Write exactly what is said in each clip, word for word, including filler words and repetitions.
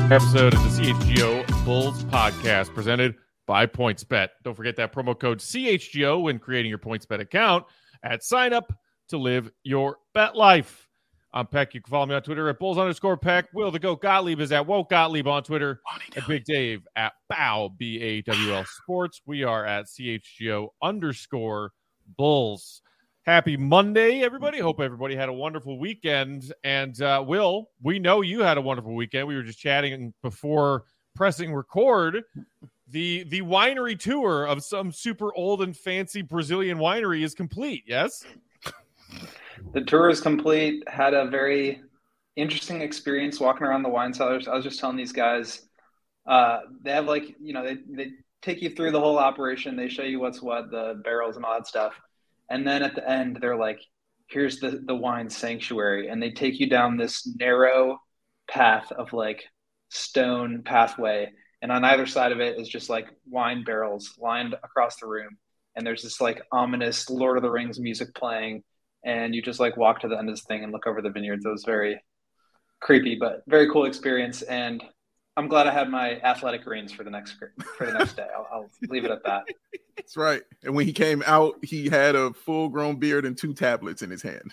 Episode of the C H G O Bulls podcast presented by PointsBet. Don't forget that promo code C H G O when creating your PointsBet account at sign up to live your bet life. I'm Peck. You can follow me on Twitter at Bulls underscore Peck. Will the Goat Gottlieb is at Woke Gottlieb on Twitter. And Big Dave at Bow, B A W L Sports. We are at C H G O underscore Bulls. Happy Monday, everybody. Hope everybody had a wonderful weekend. And, uh, Will, we know you had a wonderful weekend. We were just chatting before pressing record. The the winery tour of some super old and fancy Brazilian winery is complete, yes? The tour is complete. Had a very interesting experience walking around the wine cellars. I was just telling these guys, uh, they have like, you know, they, they take you through the whole operation. They show you what's what, the barrels and all that stuff. And then at the end, they're like, here's the, the wine sanctuary. And they take you down this narrow path of like stone pathway. And on either side of it is just like wine barrels lined across the room. And there's this like ominous Lord of the Rings music playing. And you just like walk to the end of this thing and look over the vineyards. It was very creepy, but very cool experience. And I'm glad I had my athletic greens for the next for the next day. I'll, I'll leave it at that. That's right. And when he came out, he had a full-grown beard and two tablets in his hand.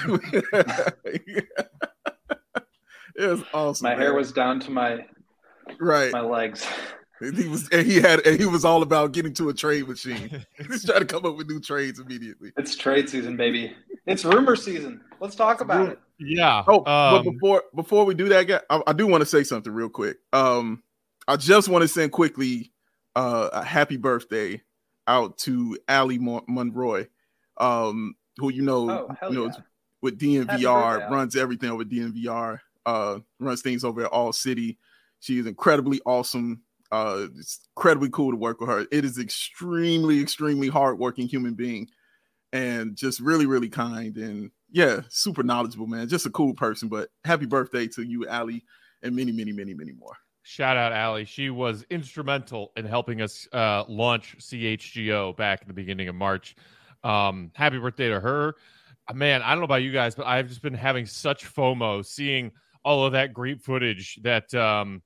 It was awesome. My man. hair was down to my right my legs. And he was and he had and he was all about getting to a trade machine. He's trying to come up with new trades immediately. It's trade season, baby. It's rumor season. Let's talk about it. Yeah. Oh, um, but before before we do that, guy, I, I do want to say something real quick. Um, I just want to send quickly uh, a happy birthday out to Ali Mon- Monroy, um, who you know, Oh, you know, yeah. with D N V R, Happy birthday, runs everything over D N V R, uh, runs things over at All City. She is incredibly awesome. Uh, it's incredibly cool to work with her. It is extremely, extremely hardworking human being, and just really, really kind and yeah, super knowledgeable, man. Just a cool person. But happy birthday to you, Ali, and many, many, many, many more. Shout out, Allie. She was instrumental in helping us uh, launch C H G O back in the beginning of March. Um, happy birthday to her. Uh, man, I don't know about you guys, but I've just been having such FOMO seeing all of that great footage that um,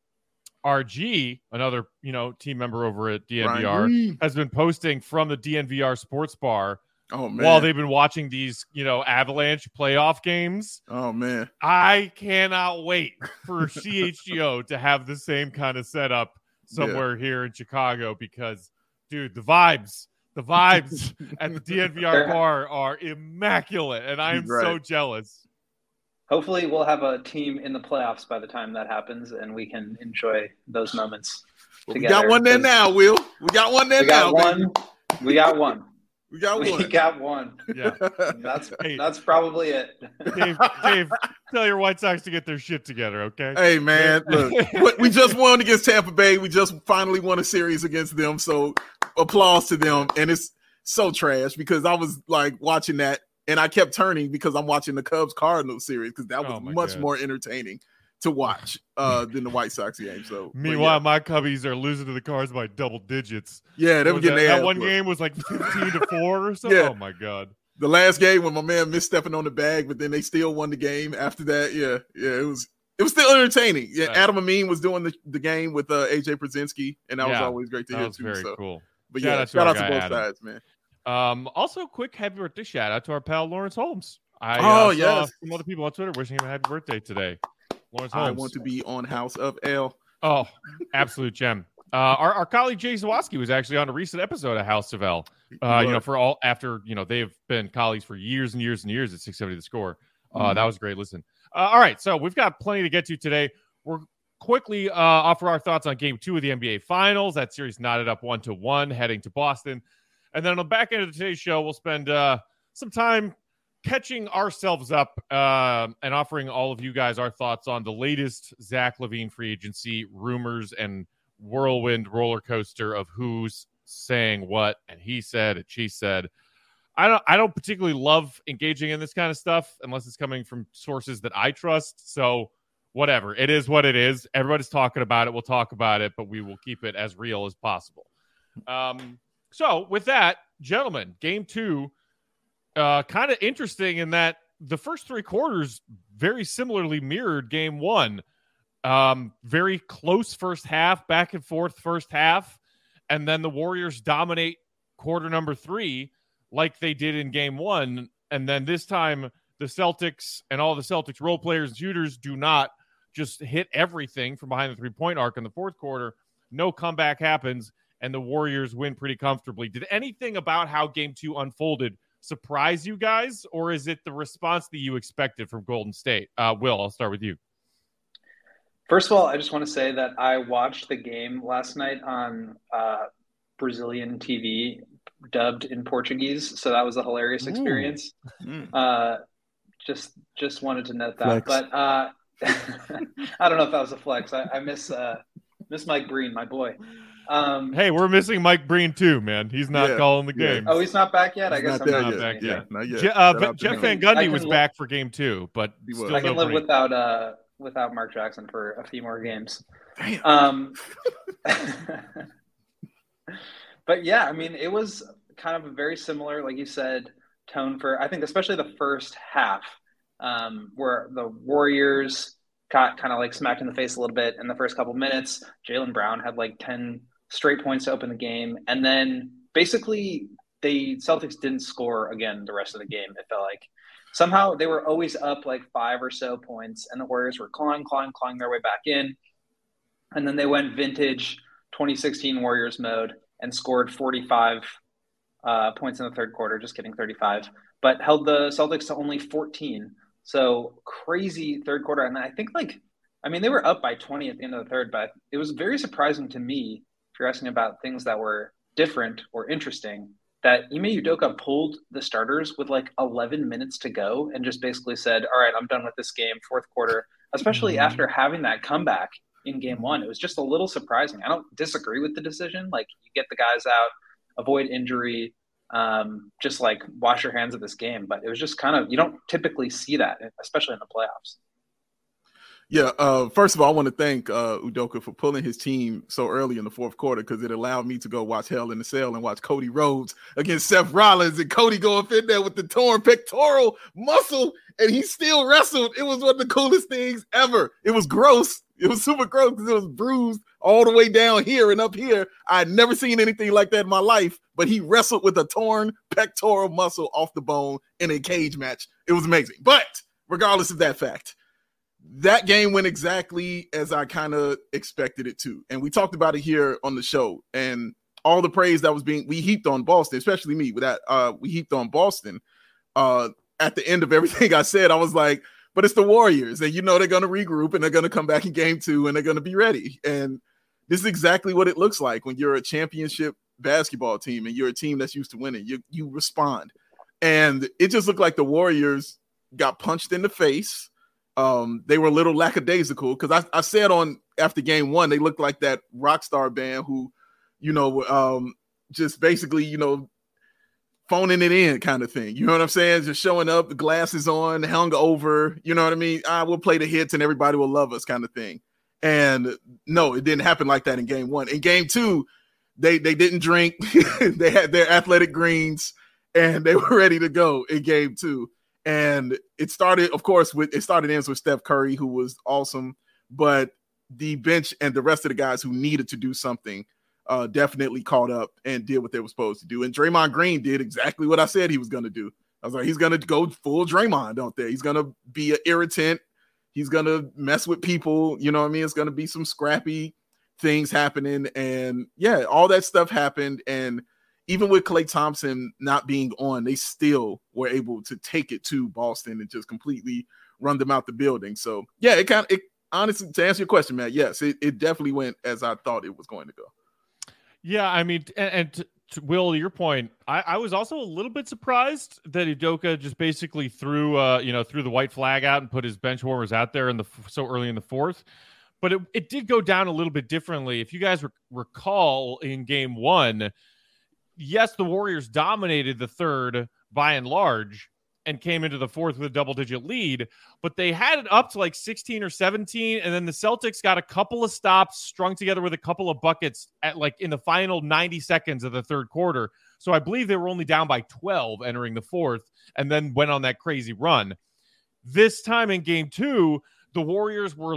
R G, another you know team member over at D N V R, Ryan. has been posting from the D N V R sports bar Oh man. while they've been watching these you know Avalanche playoff games. Oh man. I cannot wait for C H G O to have the same kind of setup somewhere yeah. here in Chicago because, dude, the vibes, the vibes at the D N V R bar are immaculate, and I am right. so jealous. Hopefully we'll have a team in the playoffs by the time that happens, and we can enjoy those moments well, together. We got one there now, Will. We got one there we got now, one. baby. We got one. We got one. We got one. Yeah. That's hey, that's probably it. Dave, Dave, tell your White Sox to get their shit together, okay? Hey, man. Look, we just won against Tampa Bay. We just finally won a series against them. So applause to them. And it's so trash because I was like watching that and I kept turning because I'm watching the Cubs Cardinals series because that was oh much God. more entertaining to watch uh, than the White Sox game. So meanwhile, yeah. my Cubbies are losing to the Cards by double digits. Yeah, they were getting that, that one game was like fifteen to four or so. Yeah. Oh my God. The last game when my man missed stepping on the bag, but then they still won the game after that. Yeah, yeah, it was it was still entertaining. Yeah, right. Adam Amin was doing the, the game with uh, A J Przinsky, and that yeah, was always great to that hear was too. Very so. cool. But shout yeah, out to, shout out to both Adam. sides, man. Um, also, quick happy birthday shout out to our pal Lawrence Holmes. I oh uh, yes, saw some other people on Twitter wishing him a happy birthday today. Lawrence Holmes. I want to be on House of L. Oh, absolute gem. Uh, our, our colleague Jay Zawoski was actually on a recent episode of House of L. Uh, you know, for all after you know they've been colleagues for years and years and years at six seventy The Score. Uh, mm-hmm. That was a great listen. Uh, all right, so we've got plenty to get to today. We're quickly uh, offer our thoughts on Game Two of the N B A Finals. That series knotted up one to one, heading to Boston, and then on the back end of today's show, we'll spend uh, some time catching ourselves up uh, and offering all of you guys our thoughts on the latest Zach LaVine free agency rumors and whirlwind roller coaster of who's saying what and he said and she said. I don't I don't particularly love engaging in this kind of stuff unless it's coming from sources that I trust. So whatever. It is what it is. Everybody's talking about it. We'll talk about it, but we will keep it as real as possible. Um, so with that, gentlemen, game two, uh, kind of interesting in that the first three quarters very similarly mirrored game one. Um, very close first half, back and forth first half, and then the Warriors dominate quarter number three like they did in game one. And then this time, the Celtics and all the Celtics role players and shooters do not just hit everything from behind the three-point arc in the fourth quarter. No comeback happens, and the Warriors win pretty comfortably. Did anything about how game two unfolded surprise you guys, or is it the response that you expected from Golden State? Uh, Will, I'll start with you. First of all, I just want to say that I watched the game last night on uh, Brazilian T V, dubbed in Portuguese, so that was a hilarious experience. Uh, just just wanted to note that. Flex. But uh, I don't know if that was a flex. I, I miss uh, miss Mike Breen, my boy. Um, hey, we're missing Mike Breen too, man. He's not yeah, calling the game. Yeah. Oh, he's not back yet? I he's guess not I'm there not yet. back yeah, yet. Not yet. Je- uh, Jeff Van Gundy was li- back for game two, but still I can no live Breen. without uh, without Mark Jackson for a few more games. Damn. Um, but yeah, I mean, it was kind of a very similar, like you said, tone for, I think, especially the first half, um, where the Warriors got kind of like smacked in the face a little bit in the first couple minutes. Jaylen Brown had like ten straight points to open the game. And then basically the Celtics didn't score again the rest of the game, it felt like. Somehow they were always up like five or so points, and the Warriors were clawing, clawing, clawing their way back in. And then they went vintage twenty sixteen Warriors mode and scored forty-five uh, points in the third quarter, just kidding, thirty-five, but held the Celtics to only fourteen. So crazy third quarter. And I think like, I mean, they were up by twenty at the end of the third, but it was very surprising to me, if you're asking about things that were different or interesting, that Ime Udoka pulled the starters with like eleven minutes to go and just basically said, all right, I'm done with this game, fourth quarter, especially mm-hmm. after having that comeback in game one. It was just a little surprising. I don't disagree with the decision. Like, you get the guys out, avoid injury, um, just like wash your hands of this game. But it was just kind of, you don't typically see that, especially in the playoffs. Yeah, uh, first of all, I want to thank uh, Udoka for pulling his team so early in the fourth quarter, because it allowed me to go watch Hell in the Cell and watch Cody Rhodes against Seth Rollins, and Cody going in there with the torn pectoral muscle, and he still wrestled. It was one of the coolest things ever. It was gross. It was super gross because it was bruised all the way down here and up here. I had never seen anything like that in my life, but he wrestled with a torn pectoral muscle off the bone in a cage match. It was amazing. But regardless of that fact, that game went exactly as I kind of expected it to. And we talked about it here on the show, and all the praise that was being, we heaped on Boston, especially me with that. Uh, we heaped on Boston. Uh, at the end of everything I said, I was like, but it's the Warriors, and you know, they're going to regroup and they're going to come back in game two and they're going to be ready. And this is exactly what it looks like when you're a championship basketball team and you're a team that's used to winning. You, you respond. And it just looked like the Warriors got punched in the face. Um, they were a little lackadaisical, because I, I said on after game one, they looked like that rock star band who, you know, um, just basically, you know, phoning it in kind of thing. You know what I'm saying? Just showing up, the glasses on, hung over, you know what I mean? I will play the hits and everybody will love us kind of thing. And no, it didn't happen like that in game one. In game two, they, they didn't drink. They had their athletic greens and they were ready to go in game two. And it started, of course, with it started ends with Steph Curry, who was awesome, but the bench and the rest of the guys who needed to do something uh, definitely caught up and did what they were supposed to do. And Draymond Green did exactly what I said he was going to do. I was like, he's going to go full Draymond out there. He's going to be an irritant. He's going to mess with people. You know what I mean? It's going to be some scrappy things happening. And yeah, all that stuff happened. And even with Klay Thompson not being on, they still were able to take it to Boston and just completely run them out the building. So yeah, it kind of, it honestly, to answer your question, Matt, yes, it, it definitely went as I thought it was going to go. Yeah, I mean, and, and to, to Will, your point, I, I was also a little bit surprised that Udoka just basically threw, uh, you know, threw the white flag out and put his bench warmers out there in the so early in the fourth. But it, it did go down a little bit differently. If you guys re- recall in game one, yes, the Warriors dominated the third by and large and came into the fourth with a double-digit lead, but they had it up to like sixteen or seventeen, and then the Celtics got a couple of stops strung together with a couple of buckets at like in the final ninety seconds of the third quarter. So I believe they were only down by twelve entering the fourth and then went on that crazy run. This time in game two, the Warriors were like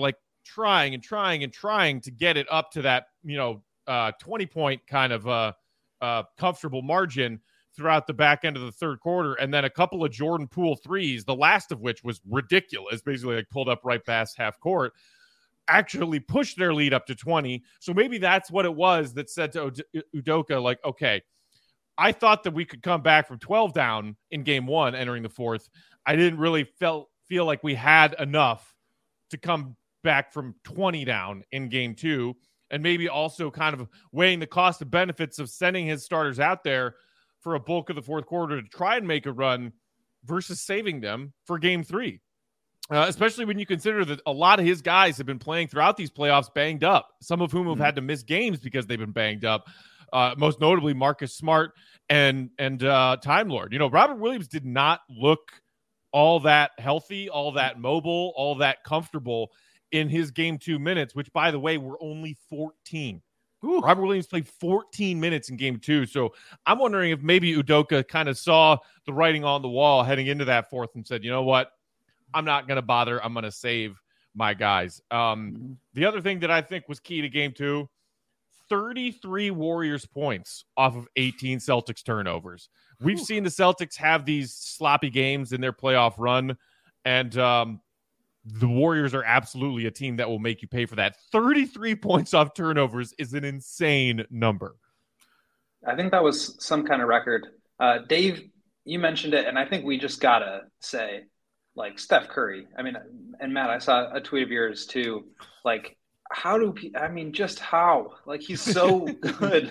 trying and trying and trying to get it up to that, you know, uh, twenty point kind of uh, uh, comfortable margin throughout the back end of the third quarter. And then a couple of Jordan Poole threes, the last of which was ridiculous, basically like pulled up right past half court, actually pushed their lead up to twenty. So maybe that's what it was that said to Udoka, like, okay, I thought that we could come back from twelve down in game one entering the fourth. I didn't really felt, feel like we had enough to come back from twenty down in game two. And maybe also kind of weighing the cost and benefits of sending his starters out there for a bulk of the fourth quarter to try and make a run versus saving them for game three. Uh, especially when you consider that a lot of his guys have been playing throughout these playoffs banged up, some of whom have had to miss games because they've been banged up. Uh, most notably Marcus Smart and, and uh, Time Lord. You know, Robert Williams did not look all that healthy, all that mobile, all that comfortable in his game two minutes, which, by the way, were only fourteen. Ooh. Robert Williams played fourteen minutes in game two. So I'm wondering if maybe Udoka kind of saw the writing on the wall heading into that fourth and said, you know what, I'm not going to bother. I'm going to save my guys. Um, mm-hmm. The other thing that I think was key to game two, thirty-three Warriors points off of eighteen Celtics turnovers. We've Ooh. seen the Celtics have these sloppy games in their playoff run, and um, the Warriors are absolutely a team that will make you pay for that. thirty-three points off turnovers is an insane number. I think that was some kind of record. Uh, Dave, you mentioned it, and I think we just got to say, like, Steph Curry. I mean, and Matt, I saw a tweet of yours too. Like, how do – I mean, just how? Like, he's so good.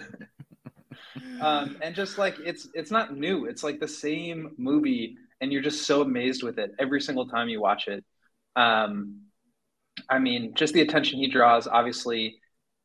um, and just, like, it's it's not new. It's, like, the same movie, and you're just so amazed with it every single time you watch it. Um, I mean, just the attention he draws obviously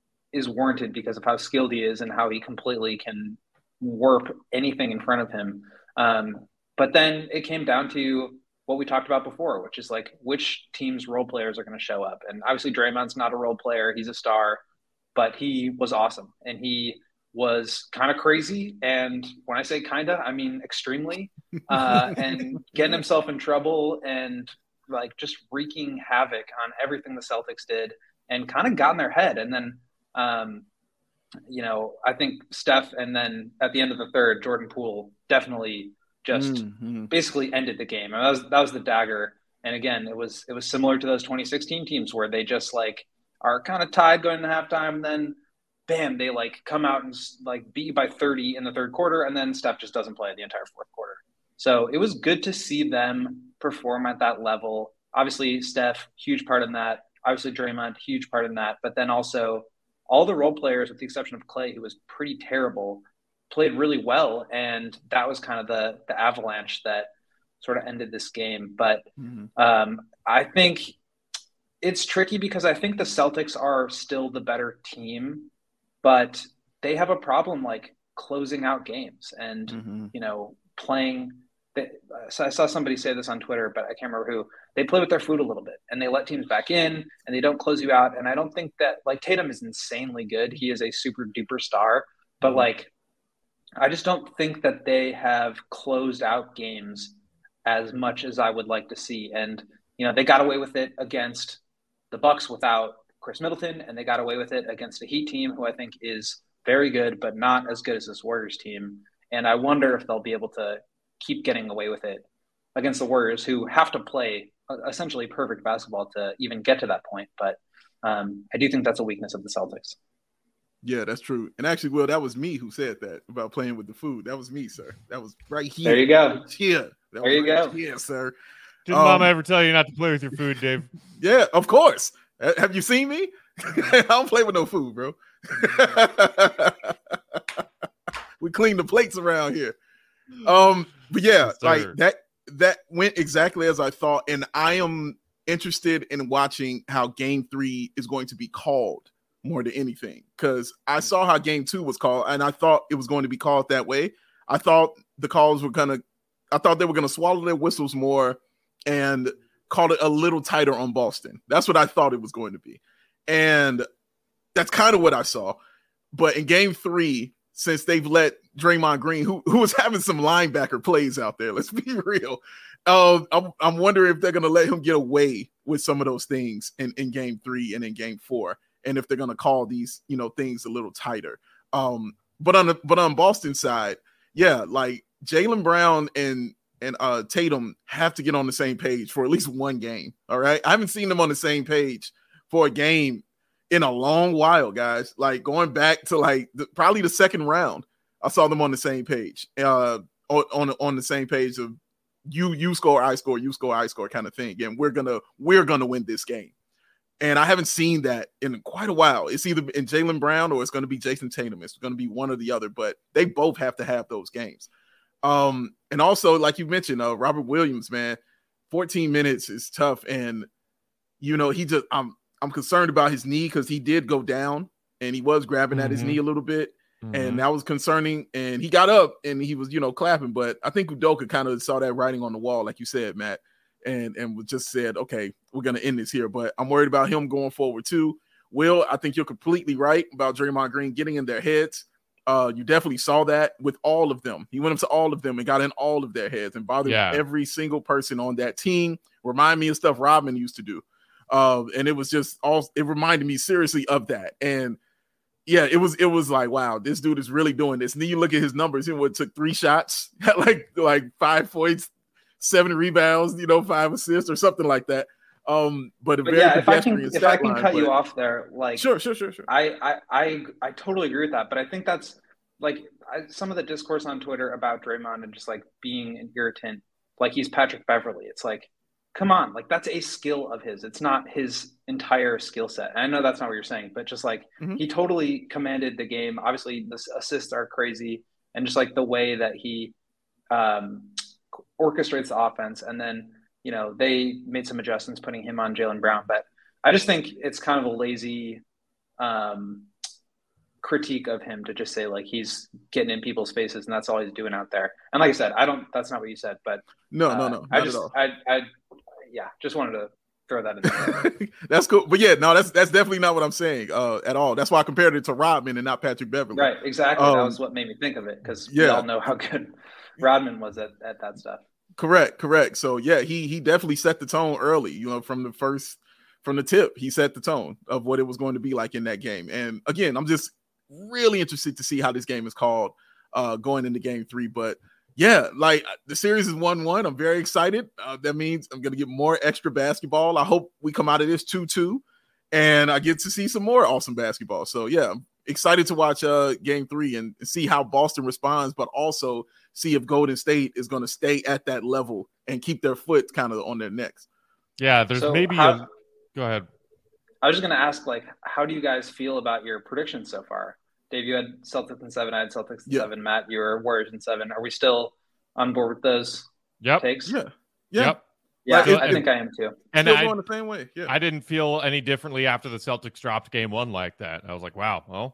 is warranted because of how skilled he is and how he completely can warp anything in front of him. Um, but then it came down to what we talked about before, which is like which team's role players are going to show up. And obviously Draymond's not a role player. He's a star, but he was awesome. And he was kind of crazy. And when I say kind of, I mean extremely, uh, and getting himself in trouble and like just wreaking havoc on everything the Celtics did and kind of got in their head. And then, um, you know, I think Steph, and then at the end of the third, Jordan Poole definitely just mm-hmm. basically ended the game. And that was, that was the dagger. And again, it was, it was similar to those twenty sixteen teams where they just like are kind of tied going into halftime. And then bam, they like come out and like beat you by thirty in the third quarter. And then Steph just doesn't play the entire fourth quarter. So it was good to see them perform at that level. Obviously, Steph, huge part in that. Obviously, Draymond, huge part in that. But then also all the role players, with the exception of Clay, who was pretty terrible, played really well. And that was kind of the, the avalanche that sort of ended this game. But mm-hmm. um, I think it's tricky because I think the Celtics are still the better team, but they have a problem like closing out games and, mm-hmm. you know, playing – so I saw somebody say this on Twitter, but I can't remember who. They play with their food a little bit and they let teams back in and they don't close you out. And I don't think that like Tatum is insanely good. He is a super duper star, but like, I just don't think that they have closed out games as much as I would like to see. And, you know, they got away with it against the Bucks without Chris Middleton, and they got away with it against a Heat team who I think is very good, but not as good as this Warriors team. And I wonder if they'll be able to keep getting away with it against the Warriors, who have to play essentially perfect basketball to even get to that point. But um, I do think that's a weakness of the Celtics. Yeah, that's true. And actually, Will, that was me who said that about playing with the food. That was me, sir. That was right here. There you go. Yeah. There you right go. Yeah, sir. Did um, Mama ever tell you not to play with your food, Dave? Yeah, of course. Uh, have you seen me? I don't play with no food, bro. We clean the plates around here. Um, but yeah, yes, like that that went exactly as I thought, and I am interested in watching how game three is going to be called more than anything, because I saw how game two was called, and I thought it was going to be called that way. I thought the calls were gonna, I thought they were gonna swallow their whistles more and call it a little tighter on Boston. That's what I thought it was going to be, and that's kind of what I saw. But in game three, since they've let Draymond Green, who who was having some linebacker plays out there, let's be real, uh, I'm, I'm wondering if they're going to let him get away with some of those things in, in game three and in game four. And if they're going to call these, you know, things a little tighter. Um, but on the, but on Boston's side, yeah, like Jaylen Brown and, and uh, Tatum have to get on the same page for at least one game. All right. I haven't seen them on the same page for a game in a long while, guys. Like going back to like the, probably the second round, I saw them on the same page, uh, on, on, on the same page of you, you score, I score, you score, I score kind of thing. And we're going to, we're going to win this game. And I haven't seen that in quite a while. It's either in Jaylen Brown or it's going to be Jason Tatum. It's going to be one or the other, but they both have to have those games. Um, and also, like you mentioned, uh, Robert Williams, man, fourteen minutes is tough. And, you know, he just, I'm, I'm concerned about his knee because he did go down and he was grabbing mm-hmm. at his knee a little bit. Mm-hmm. And that was concerning. And he got up and he was, you know, clapping. But I think Udoka kind of saw that writing on the wall, like you said, Matt. And and just said, okay, we're going to end this here. But I'm worried about him going forward too. Will, I think you're completely right about Draymond Green getting in their heads. Uh, you definitely saw that with all of them. He went up to all of them and got in all of their heads and bothered yeah. every single person on that team. Remind me of stuff Rodman used to do. Uh, and it was just all, it reminded me seriously of that. And yeah, it was, it was like, wow, this dude is really doing this. And then you look at his numbers. He would took three shots, like, like five points, seven rebounds, you know, five assists or something like that. Um, but, but yeah, if I can, if I can line, cut but... you off there, like, sure, sure, sure, sure. I, I, I, I totally agree with that. But I think that's like I, some of the discourse on Twitter about Draymond and just like being an irritant, like he's Patrick Beverley. It's like, come on, like that's a skill of his. It's not his entire skill set. And I know that's not what you're saying, but just like mm-hmm. he totally commanded the game. Obviously, the assists are crazy, and just like the way that he, um. orchestrates the offense, and then you know they made some adjustments putting him on Jaylen Brown, but I just think it's kind of a lazy um, critique of him to just say like he's getting in people's faces and that's all he's doing out there. And like I said, I don't. That's not what you said, but no, uh, no, no, I just, I, I, yeah, just wanted to throw that in there. That's cool, but yeah, no, that's that's definitely not what I'm saying uh, at all. That's why I compared it to Rodman and not Patrick Beverley. Right, exactly. Um, that was what made me think of it because yeah. we all know how good Rodman was at, at that stuff. Correct, correct. So yeah, he he definitely set the tone early, you know, from the first from the tip, he set the tone of what it was going to be like in that game. And again, I'm just really interested to see how this game is called uh, going into game three. But yeah, like the series is one one. I'm very excited. Uh, that means I'm going to get more extra basketball. I hope we come out of this two two and I get to see some more awesome basketball. So yeah, I'm excited to watch uh, game three and see how Boston responds, but also see if Golden State is going to stay at that level and keep their foot kind of on their necks. Yeah, there's so maybe how, a – go ahead. I was just going to ask, like, how do you guys feel about your predictions so far? Dave, you had Celtics in seven. I had Celtics in yeah. seven. Matt, you were Warriors in seven. Are we still on board with those yep. takes? Yeah. yeah. Yep. Yeah, like, I it, think I am too. And still I, going the same way. Yeah. I didn't feel any differently after the Celtics dropped game one like that. I was like, wow, well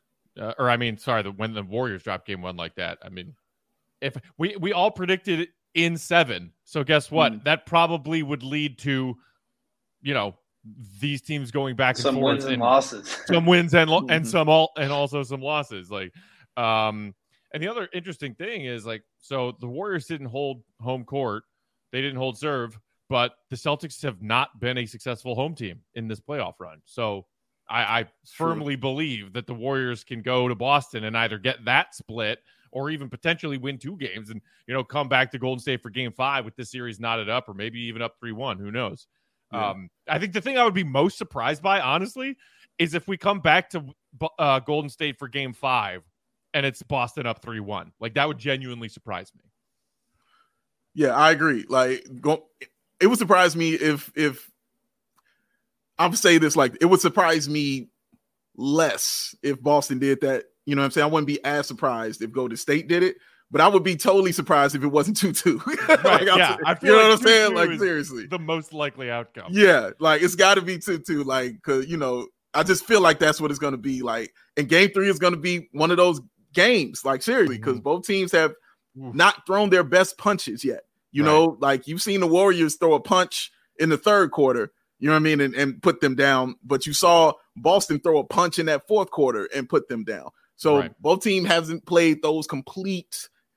– uh, or I mean, sorry, the, when the Warriors dropped game one like that, I mean – If we, we all predicted it in seven, so guess what? Mm. That probably would lead to, you know, these teams going back and some forth, wins and, and losses, some wins and mm-hmm. and some all and also some losses. Like, um, and the other interesting thing is like, so the Warriors didn't hold home court, they didn't hold serve, but the Celtics have not been a successful home team in this playoff run. So I, I firmly believe that the Warriors can go to Boston and either get that split or even potentially win two games and, you know, come back to Golden State for game five with this series knotted up or maybe even up three one. Who knows? Yeah. Um, I think the thing I would be most surprised by, honestly, is if we come back to uh, Golden State for game five and it's Boston up three one. Like, that would genuinely surprise me. Yeah, I agree. Like, go, it would surprise me if, if I'm saying this, like, it would surprise me less if Boston did that. You know what I'm saying? I wouldn't be as surprised if Golden State did it, but I would be totally surprised if it wasn't two two. Right, like, yeah, I feel you know like what I'm saying? Like, seriously. The most likely outcome. Yeah, like, it's got to be two two. Like, because, you know, I just feel like that's what it's going to be. Like, and game three is going to be one of those games, like, seriously, because mm-hmm. both teams have Oof. not thrown their best punches yet. You right. know, like, you've seen the Warriors throw a punch in the third quarter, you know what I mean, and, and put them down. But you saw Boston throw a punch in that fourth quarter and put them down. So right. both teams hasn't played those complete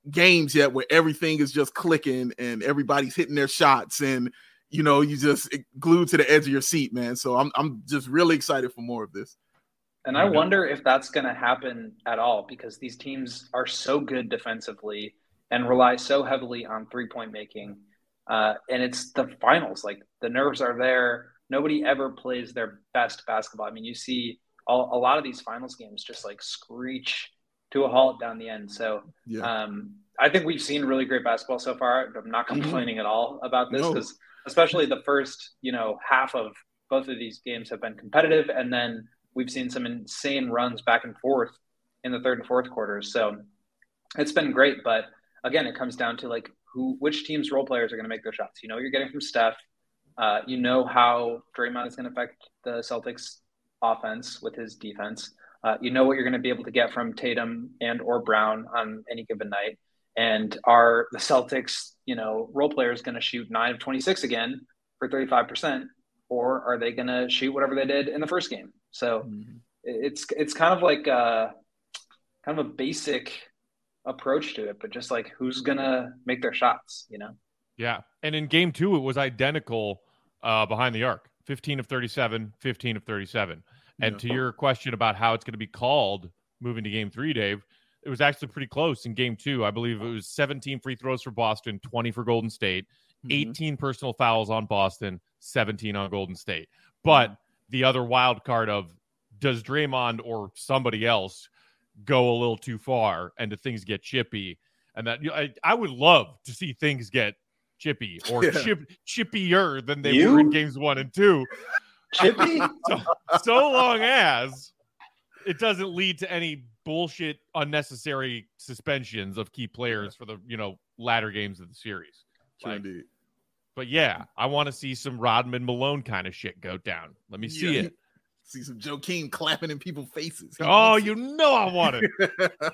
games yet where everything is just clicking and everybody's hitting their shots and, you know, you just glued to the edge of your seat, man. So I'm I'm just really excited for more of this. And I wonder if that's going to happen at all, because these teams are so good defensively and rely so heavily on three-point making. Uh, and it's the finals. Like, the nerves are there. Nobody ever plays their best basketball. I mean, you see all, a lot of these finals games just, like, screech to a halt down the end. So yeah. um, I think we've seen really great basketball so far. I'm not complaining at all about this, because no. especially the first, you know, half of both of these games have been competitive. And then we've seen some insane runs back and forth in the third and fourth quarters. So it's been great. But again, it comes down to like who, which team's role players are going to make their shots. You know what you're getting from Steph. Uh, you know how Draymond is going to affect the Celtics offense with his defense. Uh, you know what you're going to be able to get from Tatum and or Brown on any given night. And are the Celtics, you know, role players going to shoot nine of twenty-six again for thirty-five percent, or are they going to shoot whatever they did in the first game? So mm-hmm. it's it's kind of like a, kind of a basic approach to it, but just like who's gonna make their shots, you know? Yeah, and in game two, it was identical uh, behind the arc: fifteen of thirty-seven, fifteen of thirty-seven. And yeah. to your question about how it's going to be called moving to game three, Dave, it was actually pretty close in game two. I believe it was seventeen free throws for Boston, twenty for Golden State, mm-hmm. eighteen personal fouls on Boston, seventeen on Golden State. But mm-hmm. the other wild card of, does Draymond or somebody else go a little too far and do things get chippy? And that, you know, I, I would love to see things get chippy or yeah. chip, chippier than they you? were in games one and two. Chippy? So, so long as it doesn't lead to any bullshit, unnecessary suspensions of key players for the, you know, latter games of the series. Like, indeed. But yeah, I want to see some Rodman Malone kind of shit go down. Let me see yeah. it. See some Joakim clapping in people's faces. He oh, you know I want it.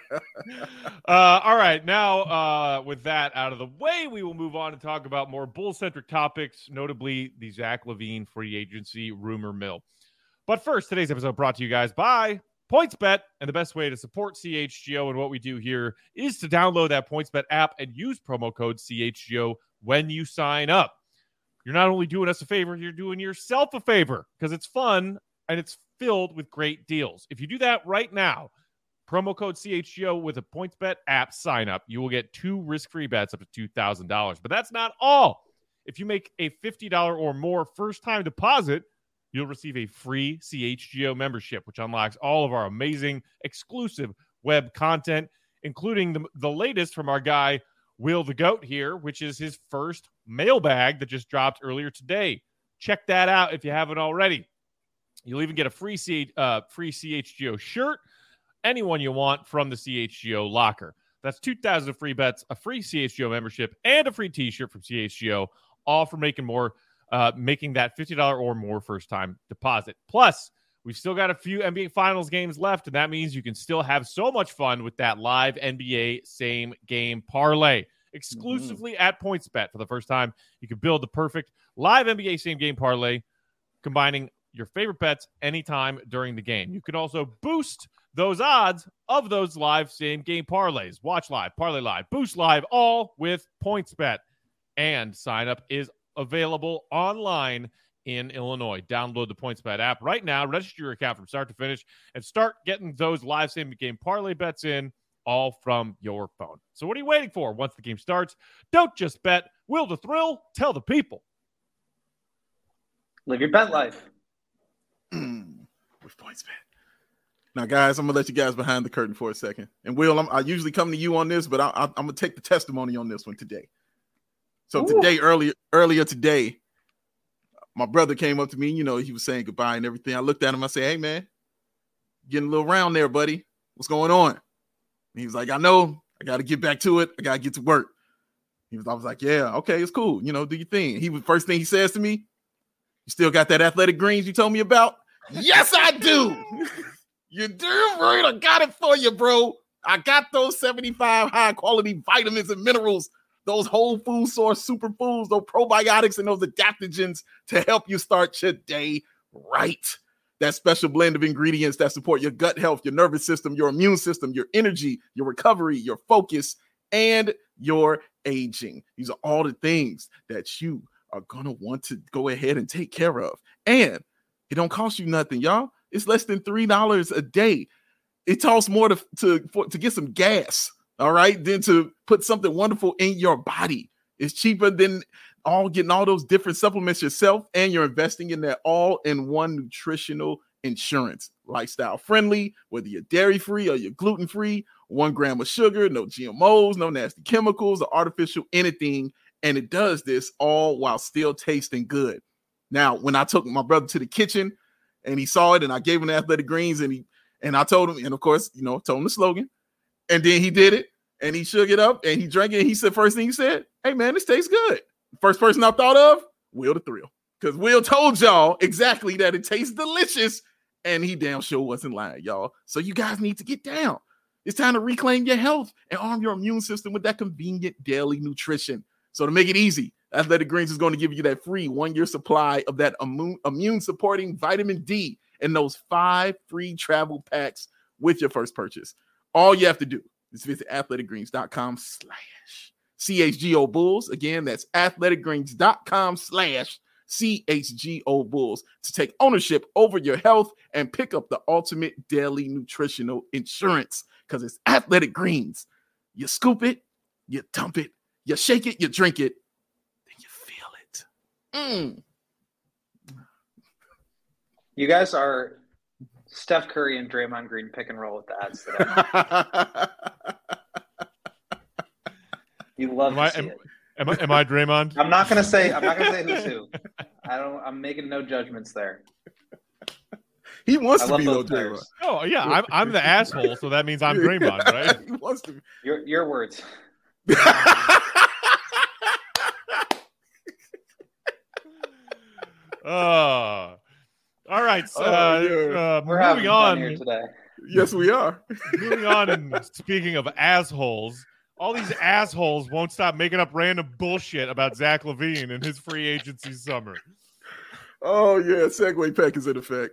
uh, all right, now uh, with that out of the way, we will move on and talk about more Bull-centric topics, notably the Zach LaVine free agency rumor mill. But first, today's episode brought to you guys by PointsBet, and the best way to support C H G O and what we do here is to download that PointsBet app and use promo code C H G O when you sign up. You're not only doing us a favor, you're doing yourself a favor, because it's fun and it's filled with great deals. If you do that right now, promo code C H G O with a PointsBet app sign up, you will get two risk-free bets up to two thousand dollars. But that's not all. If you make a fifty dollars or more first-time deposit, you'll receive a free C H G O membership, which unlocks all of our amazing exclusive web content, including the, the latest from our guy, Will the Goat here, which is his first mailbag that just dropped earlier today. Check that out if you haven't already. You'll even get a free C, uh, free C H G O shirt, anyone you want from the C H G O locker. That's two thousand free bets, a free C H G O membership, and a free t-shirt from C H G O, all for making more, uh, making that fifty dollars or more first-time deposit. Plus, we've still got a few N B A Finals games left, and that means you can still have so much fun with that live N B A same-game parlay. Exclusively mm-hmm. at PointsBet for the first time, you can build the perfect live N B A same-game parlay, combining your favorite bets anytime during the game. You can also boost those odds of those live same-game parlays. Watch live, parlay live, boost live, all with PointsBet. And sign up is available online in Illinois. Download the PointsBet app right now, register your account from start to finish, and start getting those live same-game parlay bets in, all from your phone. So what are you waiting for? Once the game starts, don't just bet. Will the thrill? Tell the people. Live your bet life. With PointsBet. Now, guys, I'm gonna let you guys behind the curtain for a second. And Will, I'm, I usually come to you on this, but I, I, I'm gonna take the testimony on this one today. So Ooh. today, earlier, earlier today, my brother came up to me. You know, he was saying goodbye and everything. I looked at him. I said, "Hey, man, getting a little round there, buddy. What's going on?" And he was like, "I know. I got to get back to it. I got to get to work." He was. I was like, "Yeah, okay, it's cool. You know, do your thing." He was first thing he says to me, "You still got that Athletic Greens you told me about?" Yes, I do. You're damn right. I got it for you, bro. I got those seventy-five high quality vitamins and minerals, those whole food source superfoods, those probiotics and those adaptogens to help you start your day right. That special blend of ingredients that support your gut health, your nervous system, your immune system, your energy, your recovery, your focus, and you're aging. These are all the things that you are going to want to go ahead and take care of. And it don't cost you nothing, y'all. It's less than three dollars a day. It costs more to, to, for, to get some gas, all right, than to put something wonderful in your body. It's cheaper than all getting all those different supplements yourself, and you're investing in that all-in-one nutritional insurance. Lifestyle friendly, whether you're dairy-free or you're gluten-free, one gram of sugar, no G M Os, no nasty chemicals or artificial anything. And it does this all while still tasting good. Now, when I took my brother to the kitchen and he saw it and I gave him the Athletic Greens and he and I told him, and of course, you know, told him the slogan, and then he did it and he shook it up and he drank it. And he said, first thing he said, hey man, this tastes good. First person I thought of, Will the Thrill. Because Will told y'all exactly that it tastes delicious, and he damn sure wasn't lying, y'all. So you guys need to get down. It's time to reclaim your health and arm your immune system with that convenient daily nutrition. So to make it easy, Athletic Greens is going to give you that free one-year supply of that immune, immune-supporting vitamin D and those five free travel packs with your first purchase. All you have to do is visit athleticgreens.com slash CHGO Bulls. Again, that's athleticgreens.com slash C H G O Bulls to take ownership over your health and pick up the ultimate daily nutritional insurance, because it's Athletic Greens. You scoop it, you dump it, you shake it, you drink it, then you feel it. Mm. You guys are Steph Curry and Draymond Green pick and roll with the ads today. You love am to I, see am, it. Am I, am I Draymond? I'm not gonna say. I'm not gonna say who's who. I don't. I'm making no judgments there. He wants I to love be though, both Draymond. players. Oh yeah, I'm I'm the asshole, so that means I'm Draymond, right? He wants to be. Your your words. Oh, all right. So, Oh, uh, yeah. uh, We're having moving fun on. here today. Yes, we are. Moving on, and speaking of assholes, all these assholes won't stop making up random bullshit about Zach LaVine and his free agency summer. Oh yeah, Segway pack is in effect.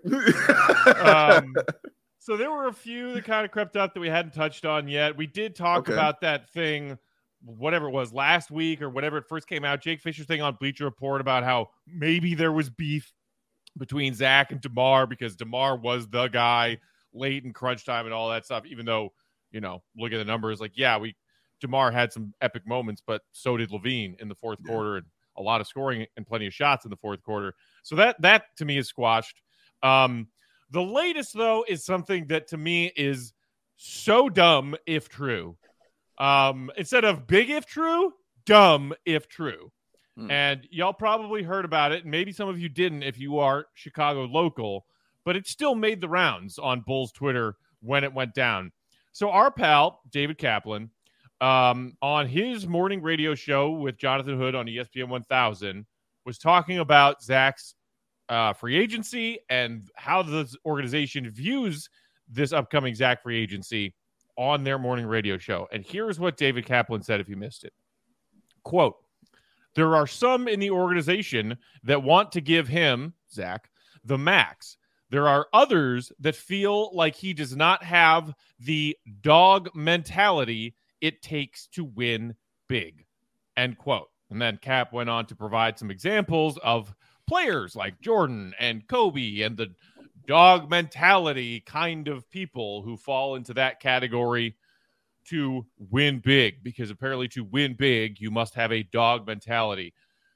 um, so there were a few that kind of crept up that we hadn't touched on yet. We did talk Okay. about that thing, whatever it was, last week or whatever it first came out. Jake Fisher's thing on Bleacher Report about how maybe there was beef between Zach and DeMar because DeMar was the guy late in crunch time and all that stuff, even though, you know, look at the numbers, like, yeah, we DeMar had some epic moments, but so did LaVine in the fourth yeah. quarter, and a lot of scoring and plenty of shots in the fourth quarter. So that that to me is squashed. Um, the latest, though, is something that to me is so dumb if true. Um, instead of big if true, dumb if true. Hmm. And y'all probably heard about it, and maybe some of you didn't if you are Chicago local, but it still made the rounds on Bulls Twitter when it went down. So our pal, David Kaplan, um, on his morning radio show with Jonathan Hood on E S P N one thousand, was talking about Zach's uh, free agency and how the organization views this upcoming Zach free agency on their morning radio show. And here's what David Kaplan said if you missed it. Quote, "There are some in the organization that want to give him, Zach, the max. There are others that feel like he does not have the dog mentality it takes to win big." End quote. And then Cap went on to provide some examples of players like Jordan and Kobe and the dog mentality kind of people who fall into that category to win big, because apparently to win big, you must have a dog mentality.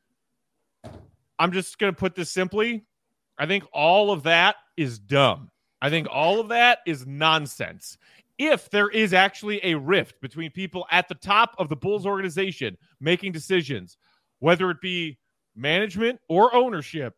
I'm just going to put this simply. I think all of that is dumb. I think all of that is nonsense. If there is actually a rift between people at the top of the Bulls organization making decisions, whether it be management or ownership,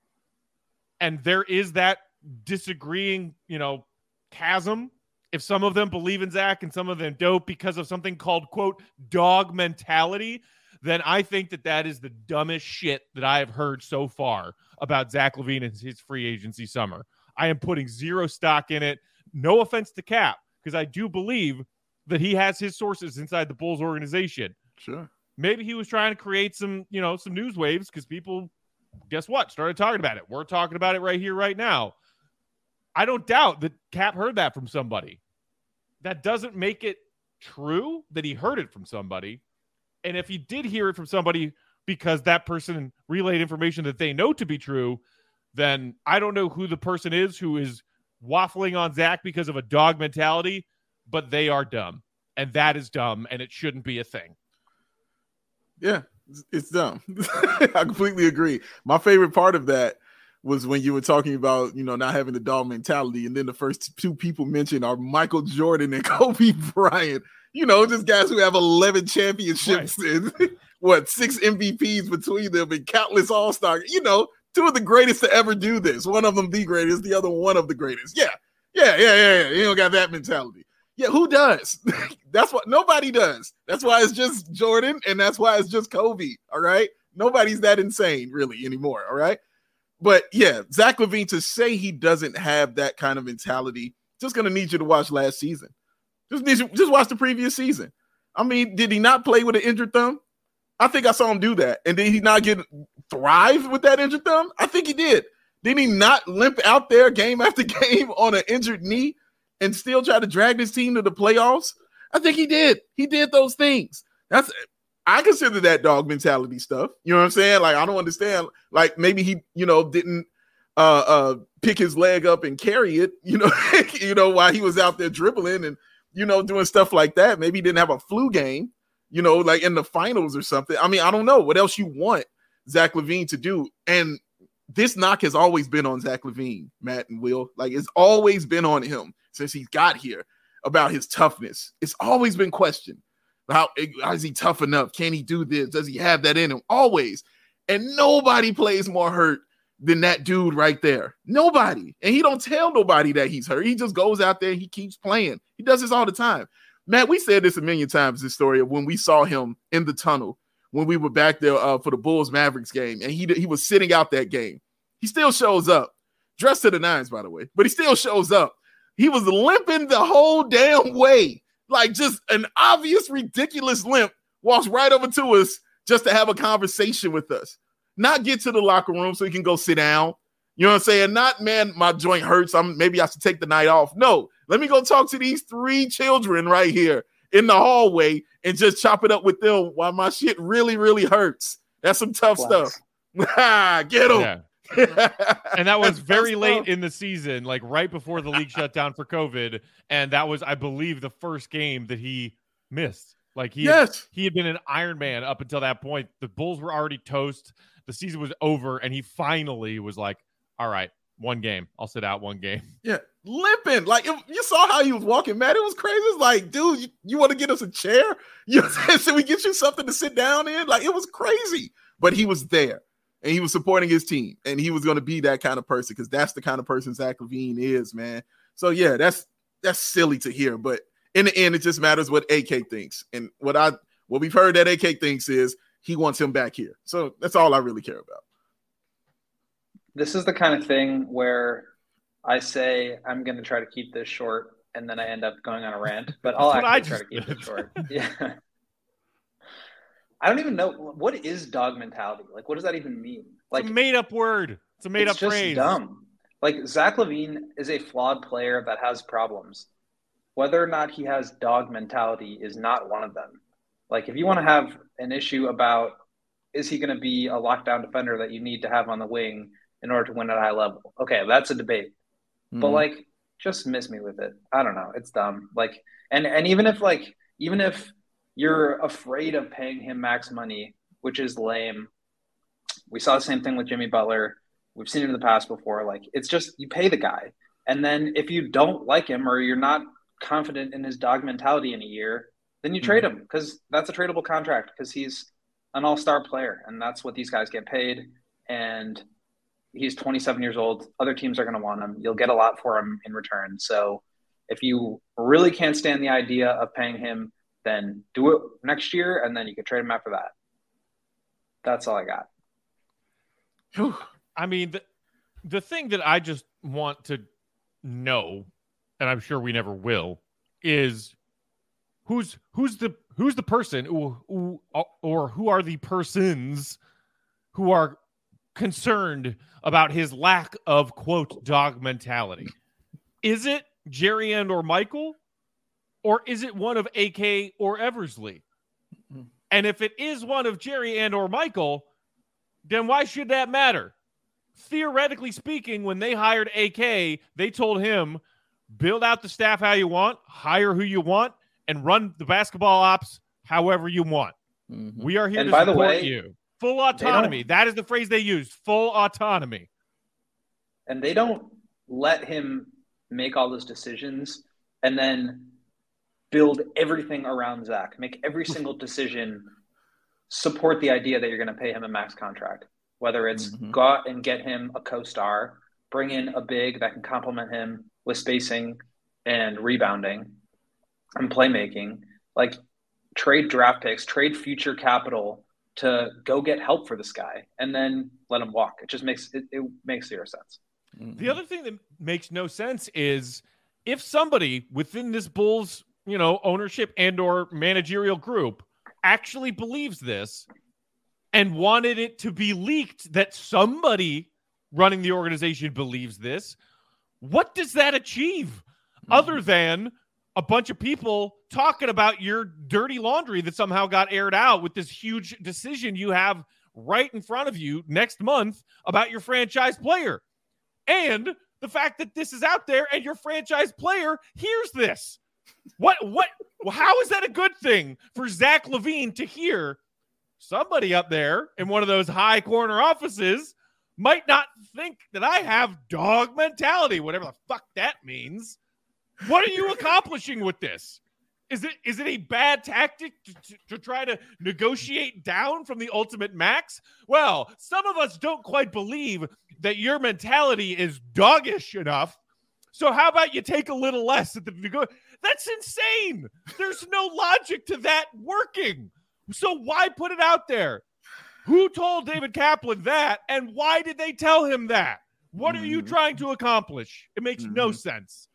and there is that disagreeing, you know, chasm, if some of them believe in Zach and some of them don't because of something called, quote, dog mentality, then I think that that is the dumbest shit that I have heard so far about Zach LaVine and his free agency summer. I am putting zero stock in it. No offense to Cap, because I do believe that he has his sources inside the Bulls organization. Sure. Maybe he was trying to create some, you know, some news waves because people, guess what, started talking about it. We're talking about it right here, right now. I don't doubt that Cap heard that from somebody. That doesn't make it true, that he heard it from somebody. And if he did hear it from somebody because that person relayed information that they know to be true, then I don't know who the person is who is waffling on Zach because of a dog mentality, but they are dumb. And that is dumb, and it shouldn't be a thing. Yeah, it's dumb. I completely agree. My favorite part of that was when you were talking about, you know, not having the dog mentality, and then the first two people mentioned are Michael Jordan and Kobe Bryant. You know, just guys who have eleven championships right. and what, six M V Ps between them and countless all-stars. You know, two of the greatest to ever do this. One of them the greatest, the other one of the greatest. Yeah, yeah, yeah, yeah, yeah. You don't got that mentality. Yeah, who does? That's what nobody does. That's why it's just Jordan, and that's why it's just Kobe. All right. Nobody's that insane really anymore. All right. But yeah, Zach LaVine, to say he doesn't have that kind of mentality, just gonna need you to watch last season. Just need you, just watch the previous season. I mean, did he not play with an injured thumb? I think I saw him do that. And did he not get thrive with that injured thumb? I think he did. Did he not limp out there game after game on an injured knee and still try to drag this team to the playoffs? I think he did. He did those things. That's I consider that dog mentality stuff. You know what I'm saying? Like, I don't understand. Like, maybe he, you know, didn't uh, uh, pick his leg up and carry it, you know, you know, while he was out there dribbling and, you know, doing stuff like that. Maybe he didn't have a flu game, you know, like in the finals or something. I mean, I don't know what else you want Zach LaVine to do. And this knock has always been on Zach LaVine, Matt and Will. Like, it's always been on him since he got here about his toughness. It's always been questioned. How, how is he tough enough? Can he do this? Does he have that in him? Always. And nobody plays more hurt than that dude right there. Nobody. And he don't tell nobody that he's hurt. He just goes out there. He keeps playing. He does this all the time. Matt, we said this a million times, this story of when we saw him in the tunnel, when we were back there uh, for the Bulls-Mavericks game, and he, he was sitting out that game. He still shows up. Dressed to the nines, by the way. But he still shows up. He was limping the whole damn way. Like, just an obvious, ridiculous limp, walks right over to us just to have a conversation with us. Not get to the locker room so he can go sit down. You know what I'm saying? Not, man, my joint hurts. I'm maybe I should take the night off. No, let me go talk to these three children right here in the hallway and just chop it up with them while my shit really, really hurts. That's some tough wow. stuff. Get them. Yeah. And that was very late in the season, like right before the league shut down for COVID. And that was, I believe, the first game that he missed. Like he, yes. had, he had been an Iron Man up until that point. The Bulls were already toast. The season was over. And he finally was like, all right, one game. I'll sit out one game. Yeah. Limping. Like, it, you saw how he was walking, man. It was crazy. It's like, dude, you, you want to get us a chair? You know what I'm saying? Should we get you something to sit down in? Like, it was crazy. But he was there. And he was supporting his team, and he was going to be that kind of person because that's the kind of person Zach LaVine is, man. So yeah, that's that's silly to hear, but in the end, it just matters what A K thinks. And what I what we've heard that A K thinks is he wants him back here. So that's all I really care about. This is the kind of thing where I say I'm going to try to keep this short, and then I end up going on a rant. But I'll actually try to keep it short. Yeah. I don't even know, what is dog mentality? Like, what does that even mean? Like, it's a made-up word. It's a made-up it's just phrase. Dumb. Like, Zach LaVine is a flawed player that has problems. Whether or not he has dog mentality is not one of them. Like, if you want to have an issue about is he going to be a lockdown defender that you need to have on the wing in order to win at a high level, okay, that's a debate. Mm-hmm. But like, just miss me with it. I don't know. It's dumb. Like, and and even if like, even if you're afraid of paying him max money, which is lame. We saw the same thing with Jimmy Butler. We've seen it in the past before. Like, it's just, you pay the guy. And then if you don't like him or you're not confident in his dog mentality in a year, then you mm-hmm. trade him because that's a tradable contract because he's an all-star player. And that's what these guys get paid. And he's twenty-seven years old. Other teams are going to want him. You'll get a lot for him in return. So if you really can't stand the idea of paying him, then do it next year, and then you can trade him after that. That's all I got. I mean, the, the thing that I just want to know, and I'm sure we never will, is who's who's the who's the person who, who or who are the persons who are concerned about his lack of, quote, dog mentality? Is it Jerry and or Michael? or is it one of A K or Eversley? Mm-hmm. And if it is one of Jerry and or Michael, then why should that matter? Theoretically speaking, when they hired A K, they told him, build out the staff how you want, hire who you want, and run the basketball ops however you want. Mm-hmm. We are here and to support way, you. Full autonomy. That is the phrase they used. Full autonomy. And they don't let him make all those decisions and then build everything around Zach. Make every single decision support the idea that you're going to pay him a max contract. Whether it's mm-hmm. go out and get him a co-star, bring in a big that can complement him with spacing and rebounding and playmaking, like trade draft picks, trade future capital to go get help for this guy and then let him walk. It just makes it, it makes zero sense. The other thing that makes no sense is if somebody within this Bulls, you know, ownership and or managerial group actually believes this and wanted it to be leaked that somebody running the organization believes this, what does that achieve mm-hmm. other than a bunch of people talking about your dirty laundry that somehow got aired out with this huge decision you have right in front of you next month about your franchise player? And the fact that this is out there and your franchise player hears this. What, what, how is that a good thing for Zach LaVine to hear? Somebody up there in one of those high corner offices might not think that I have dog mentality, whatever the fuck that means. What are you accomplishing with this? Is it is it a bad tactic to, to, to try to negotiate down from the ultimate max? Well, some of us don't quite believe that your mentality is doggish enough. So how about you take a little less at the nego- That's insane. There's no logic to that working. So why put it out there? Who told David Kaplan that, and why did they tell him that? What mm-hmm. are you trying to accomplish? It makes mm-hmm. no sense.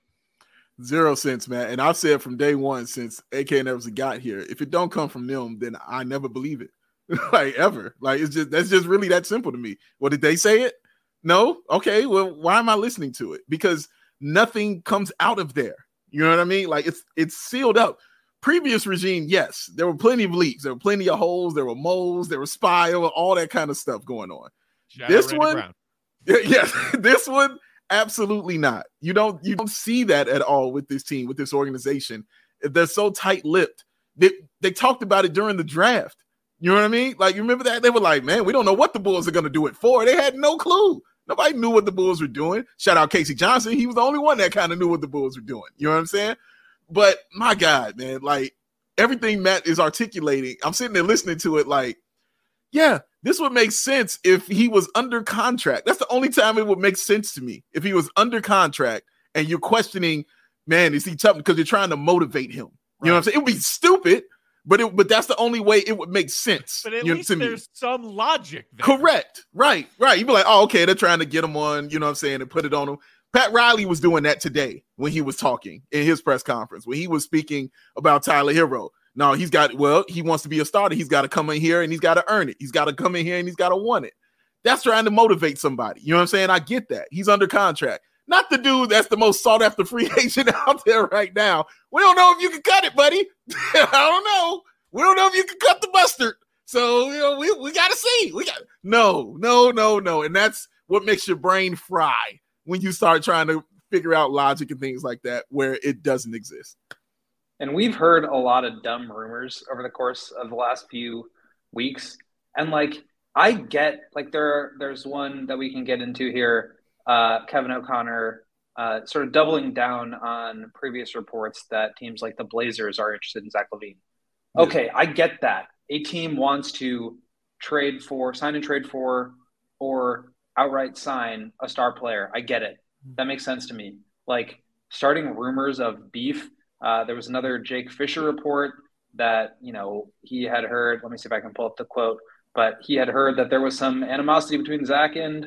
Zero sense, man. And I've said from day one since A K and Eversley got here, if it don't come from them, then I never believe it. Like, ever. Like, it's just, that's just really that simple to me. Well, did they say it? No? Okay, well, why am I listening to it? Because nothing comes out of there. You know what I mean? Like, it's it's sealed up. Previous regime, yes, there were plenty of leaks. There were plenty of holes. There were moles. There was spy, all that kind of stuff going on. Shout this one, yes, yeah, this one, absolutely not. You don't you don't see that at all with this team, with this organization. They're so tight-lipped. They they talked about it during the draft. You know what I mean? Like, you remember that? They were like, man, we don't know what the Bulls are going to do it for. They had no clue. Nobody knew what the Bulls were doing. Shout out Casey Johnson. He was the only one that kind of knew what the Bulls were doing. You know what I'm saying? But my God, man, like everything Matt is articulating, I'm sitting there listening to it like, yeah, this would make sense if he was under contract. That's the only time it would make sense to me. If he was under contract and you're questioning, man, is he tough? Because you're trying to motivate him. You right. know what I'm saying? It would be stupid, but it, but that's the only way it would make sense. But at you least know, there's some logic there. Correct. Right, right. You'd be like, oh, okay, they're trying to get him on, you know what I'm saying, and put it on him. Pat Riley was doing that today when he was talking in his press conference, when he was speaking about Tyler Hero. No, he's got, well, he wants to be a starter. He's got to come in here and he's got to earn it. He's got to come in here and he's got to want it. That's trying to motivate somebody. You know what I'm saying? I get that. He's under contract. Not the dude that's the most sought after free agent out there right now. We don't know if you can cut it, buddy. I don't know. We don't know if you can cut the mustard. So, you know, we, we got to see. We got no, no, no, no. And that's what makes your brain fry when you start trying to figure out logic and things like that where it doesn't exist. And we've heard a lot of dumb rumors over the course of the last few weeks. And like, I get like there, there's one that we can get into here. Uh, Kevin O'Connor uh, sort of doubling down on previous reports that teams like the Blazers are interested in Zach LaVine. Okay, yeah. I get that. A team wants to trade for, sign and trade for, or outright sign a star player. I get it. That makes sense to me. Like starting rumors of beef. Uh, there was another Jake Fisher report that, you know, he had heard, let me see if I can pull up the quote, but he had heard that there was some animosity between Zach and,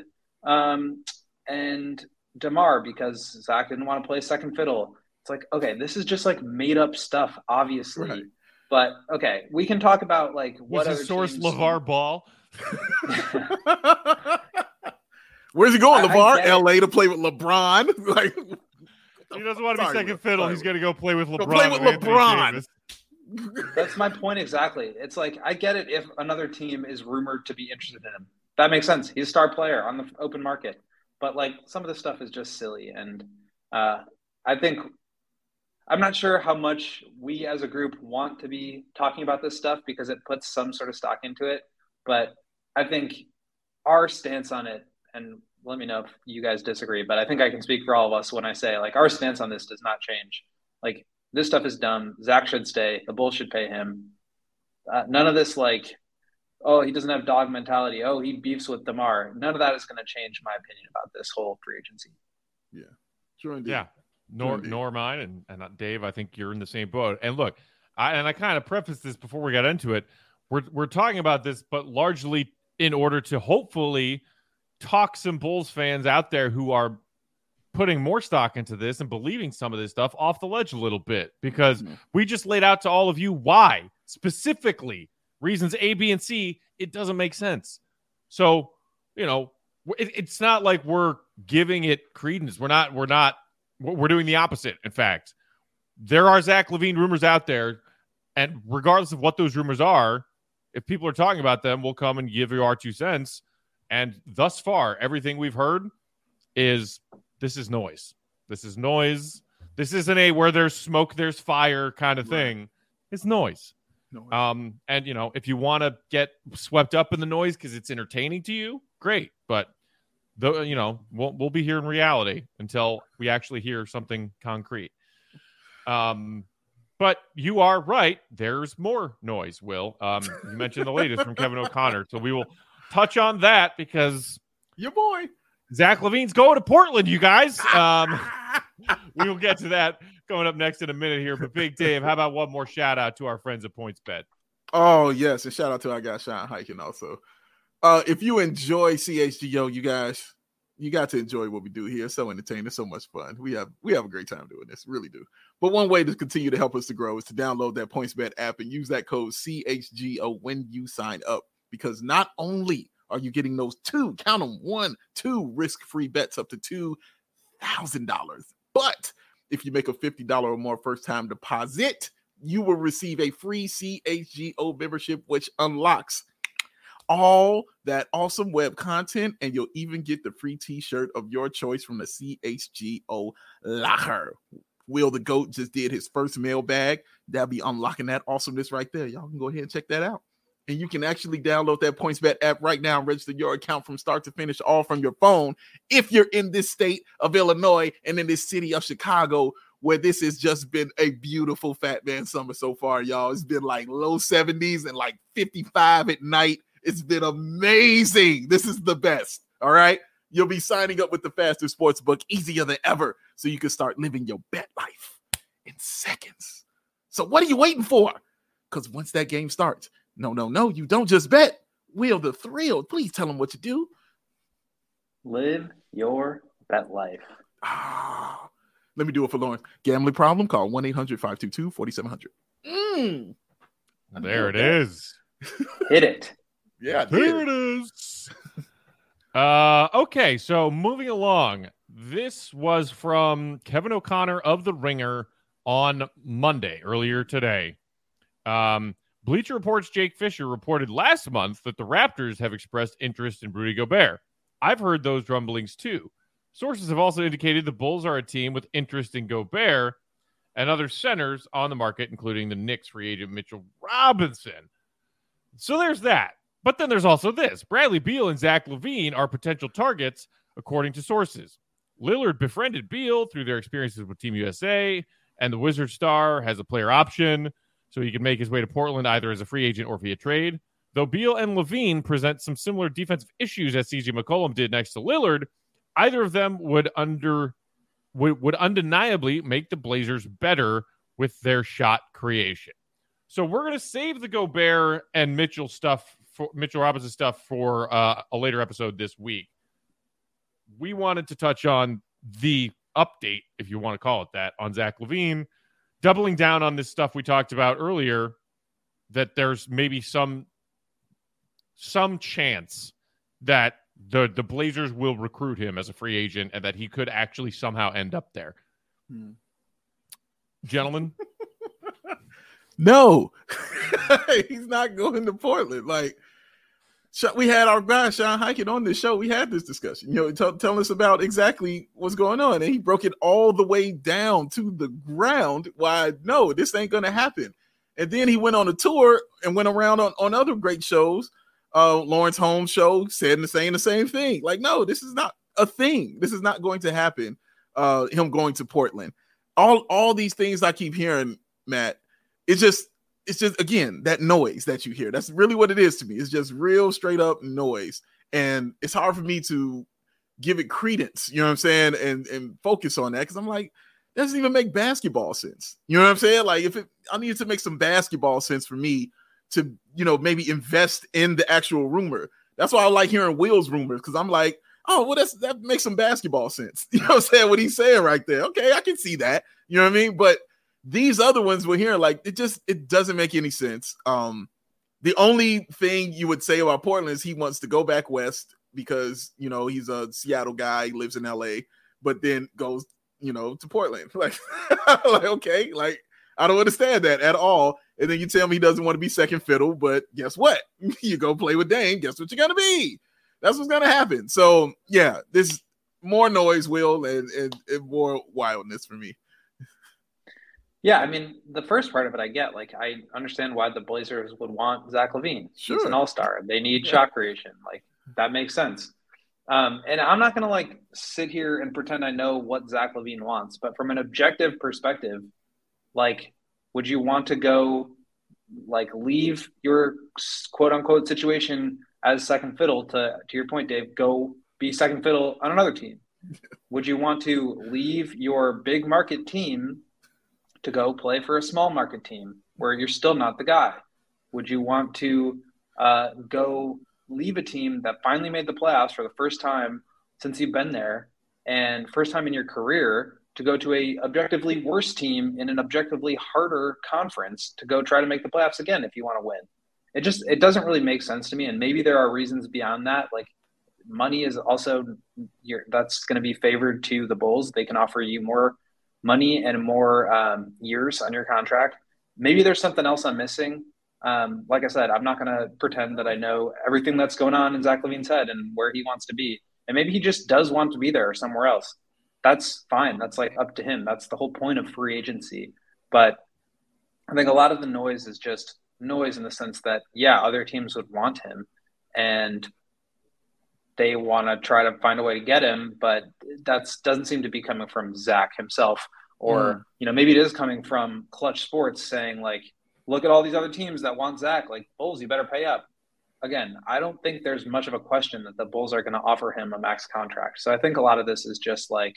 um, and DeMar because Zach didn't want to play second fiddle. It's like, okay, this is just like made up stuff, obviously. Right. But okay, we can talk about like what was other the source teams... LeVar Ball. Where's he going, LeVar? L A to play with LeBron? Like, He doesn't want to be Sorry, second Will. fiddle. Sorry, He's going to go play with LeBron. Go play with and Anthony LeBron. Davis. That's my point exactly. It's like I get it if another team is rumored to be interested in him. That makes sense. He's a star player on the open market. But like some of the stuff is just silly. And uh, I think I'm not sure how much we as a group want to be talking about this stuff because it puts some sort of stock into it. But I think our stance on it, and let me know if you guys disagree, but I think I can speak for all of us when I say like our stance on this does not change. Like this stuff is dumb. Zach should stay. The Bulls should pay him. Uh, none of this like, oh, he doesn't have dog mentality. Oh, he beefs with DeMar. None of that is going to change my opinion about this whole free agency. Yeah, sure indeed. Yeah, nor Sure nor mine, and and Dave, I think you're in the same boat. And look, I and I kind of prefaced this before we got into it. We're we're talking about this, but largely in order to hopefully talk some Bulls fans out there who are putting more stock into this and believing some of this stuff off the ledge a little bit, because mm-hmm. we just laid out to all of you why specifically. Reasons A, B, and C, it doesn't make sense. So, you know, it, it's not like we're giving it credence. We're not, we're not, we're doing the opposite. In fact, there are Zach LaVine rumors out there. And regardless of what those rumors are, if people are talking about them, we'll come and give you our two cents. And thus far, everything we've heard is this is noise. This is noise. This isn't a where there's smoke, there's fire kind of thing. Right. It's noise. No Um, and, you know, if you want to get swept up in the noise because it's entertaining to you, great. But, the, you know, we'll, we'll be here in reality until we actually hear something concrete. Um, but you are right. There's more noise, Will. Um, you mentioned the latest from Kevin O'Connor. So we will touch on that because your boy Zach LaVine's going to Portland, you guys. Um, we will get to that coming up next in a minute here. But Big Dave, how about one more shout out to our friends at PointsBet? Oh, yes. And shout out to our guy, Sean Hiking also. Uh, if you enjoy C H G O, you guys, you got to enjoy what we do here. It's so entertaining. It's so much fun. We have we have a great time doing this. Really do. But one way to continue to help us to grow is to download that PointsBet app and use that code C H G O when you sign up. Because not only are you getting those two, count them, one, two risk-free bets up to two thousand dollars, but if you make a fifty dollars or more first-time deposit, you will receive a free C H G O membership, which unlocks all that awesome web content, and you'll even get the free t-shirt of your choice from the C H G O locker. Will the GOAT just did his first mailbag. That'll be unlocking that awesomeness right there. Y'all can go ahead and check that out. And you can actually download that PointsBet app right now and register your account from start to finish, all from your phone. If you're in this state of Illinois and in this city of Chicago, where this has just been a beautiful Fat Man summer so far, y'all. It's been like low seventies and like fifty-five at night. It's been amazing. This is the best. All right. You'll be signing up with the faster sports book easier than ever, so you can start living your bet life in seconds. So what are you waiting for? Because once that game starts, no, no, no, you don't just bet. Will the Thrill, please tell them what to do. Live your bet life. Ah, let me do it for Lawrence. Gambling problem? Call one eight hundred five two two four seven zero zero. Mm. There it is. Hit it. Yeah, there it is. uh, okay, so moving along. This was from Kevin O'Connor of The Ringer on Monday, earlier today. Um, Bleacher Report's Jake Fisher reported last month that the Raptors have expressed interest in Rudy Gobert. I've heard those rumblings too. Sources have also indicated the Bulls are a team with interest in Gobert and other centers on the market, including the Knicks free agent Mitchell Robinson. So there's that. But then there's also this. Bradley Beal and Zach LaVine are potential targets, according to sources. Lillard befriended Beal through their experiences with Team U S A, and the Wizard star has a player option, so he can make his way to Portland either as a free agent or via trade. Though Beal and LaVine present some similar defensive issues as C J McCollum did next to Lillard, either of them would under would, would undeniably make the Blazers better with their shot creation. So we're going to save the Gobert and Mitchell stuff, for Mitchell Robinson stuff for uh, a later episode this week. We wanted to touch on the update, if you want to call it that, on Zach LaVine, doubling down on this stuff we talked about earlier, that there's maybe some some chance that the, the Blazers will recruit him as a free agent and that he could actually somehow end up there. Hmm. Gentlemen? No. He's not going to Portland. Like, we had our guy Sean Highkin on this show. We had this discussion, you know, t- tell us about exactly what's going on. And he broke it all the way down to the ground. Why, no, this ain't going to happen. And then he went on a tour and went around on, on other great shows. Uh, Lawrence Holmes show said the same, the same thing. Like, no, this is not a thing. This is not going to happen. Uh, him going to Portland. All, all these things I keep hearing, Matt, it's just, it's just, again, that noise that you hear. That's really what it is to me. It's just real straight up noise. And it's hard for me to give it credence, you know what I'm saying? And, and focus on that. Cause I'm like, that doesn't even make basketball sense. You know what I'm saying? Like if it, I need to make some basketball sense for me to, you know, maybe invest in the actual rumor. That's why I like hearing Will's rumors. Cause I'm like, oh, well, that's, that makes some basketball sense. You know what I'm saying? What he's saying right there. Okay. I can see that, you know what I mean? But these other ones we're hearing, like, it just, it doesn't make any sense. Um, the only thing you would say about Portland is he wants to go back west because, you know, he's a Seattle guy, lives in L A, but then goes, you know, to Portland. Like, like, okay, like, I don't understand that at all. And then you tell me he doesn't want to be second fiddle, but guess what? You go play with Dame, guess what you're going to be? That's what's going to happen. So, yeah, this more noise, Will, and, and, and more wildness for me. Yeah, I mean, the first part of it I get. Like, I understand why the Blazers would want Zach LaVine. Sure. He's an all-star. They need yeah. shot creation. Like, that makes sense. Um, and I'm not going to, like, sit here and pretend I know what Zach LaVine wants. But from an objective perspective, like, would you want to go, like, leave your quote-unquote situation as second fiddle to, to your point, Dave, go be second fiddle on another team? Would you want to leave your big market team to go play for a small market team where you're still not the guy? Would you want to uh, go leave a team that finally made the playoffs for the first time since you've been there and first time in your career to go to a objectively worse team in an objectively harder conference to go try to make the playoffs again if you want to win? It just, it doesn't really make sense to me. And maybe there are reasons beyond that. Like, money is also, your, that's going to be favored to the Bulls. They can offer you more money and more um, years on your contract. Maybe there's something else I'm missing. Um, like I said, I'm not going to pretend that I know everything that's going on in Zach LaVine's head and where he wants to be. And maybe he just does want to be there or somewhere else. That's fine. That's like up to him. That's the whole point of free agency. But I think a lot of the noise is just noise in the sense that, yeah, other teams would want him and they want to try to find a way to get him, but that doesn't seem to be coming from Zach himself. Or, mm. you know, maybe it is coming from Clutch Sports saying, like, look at all these other teams that want Zach. Like, Bulls, you better pay up. Again, I don't think there's much of a question that the Bulls are going to offer him a max contract. So I think a lot of this is just like,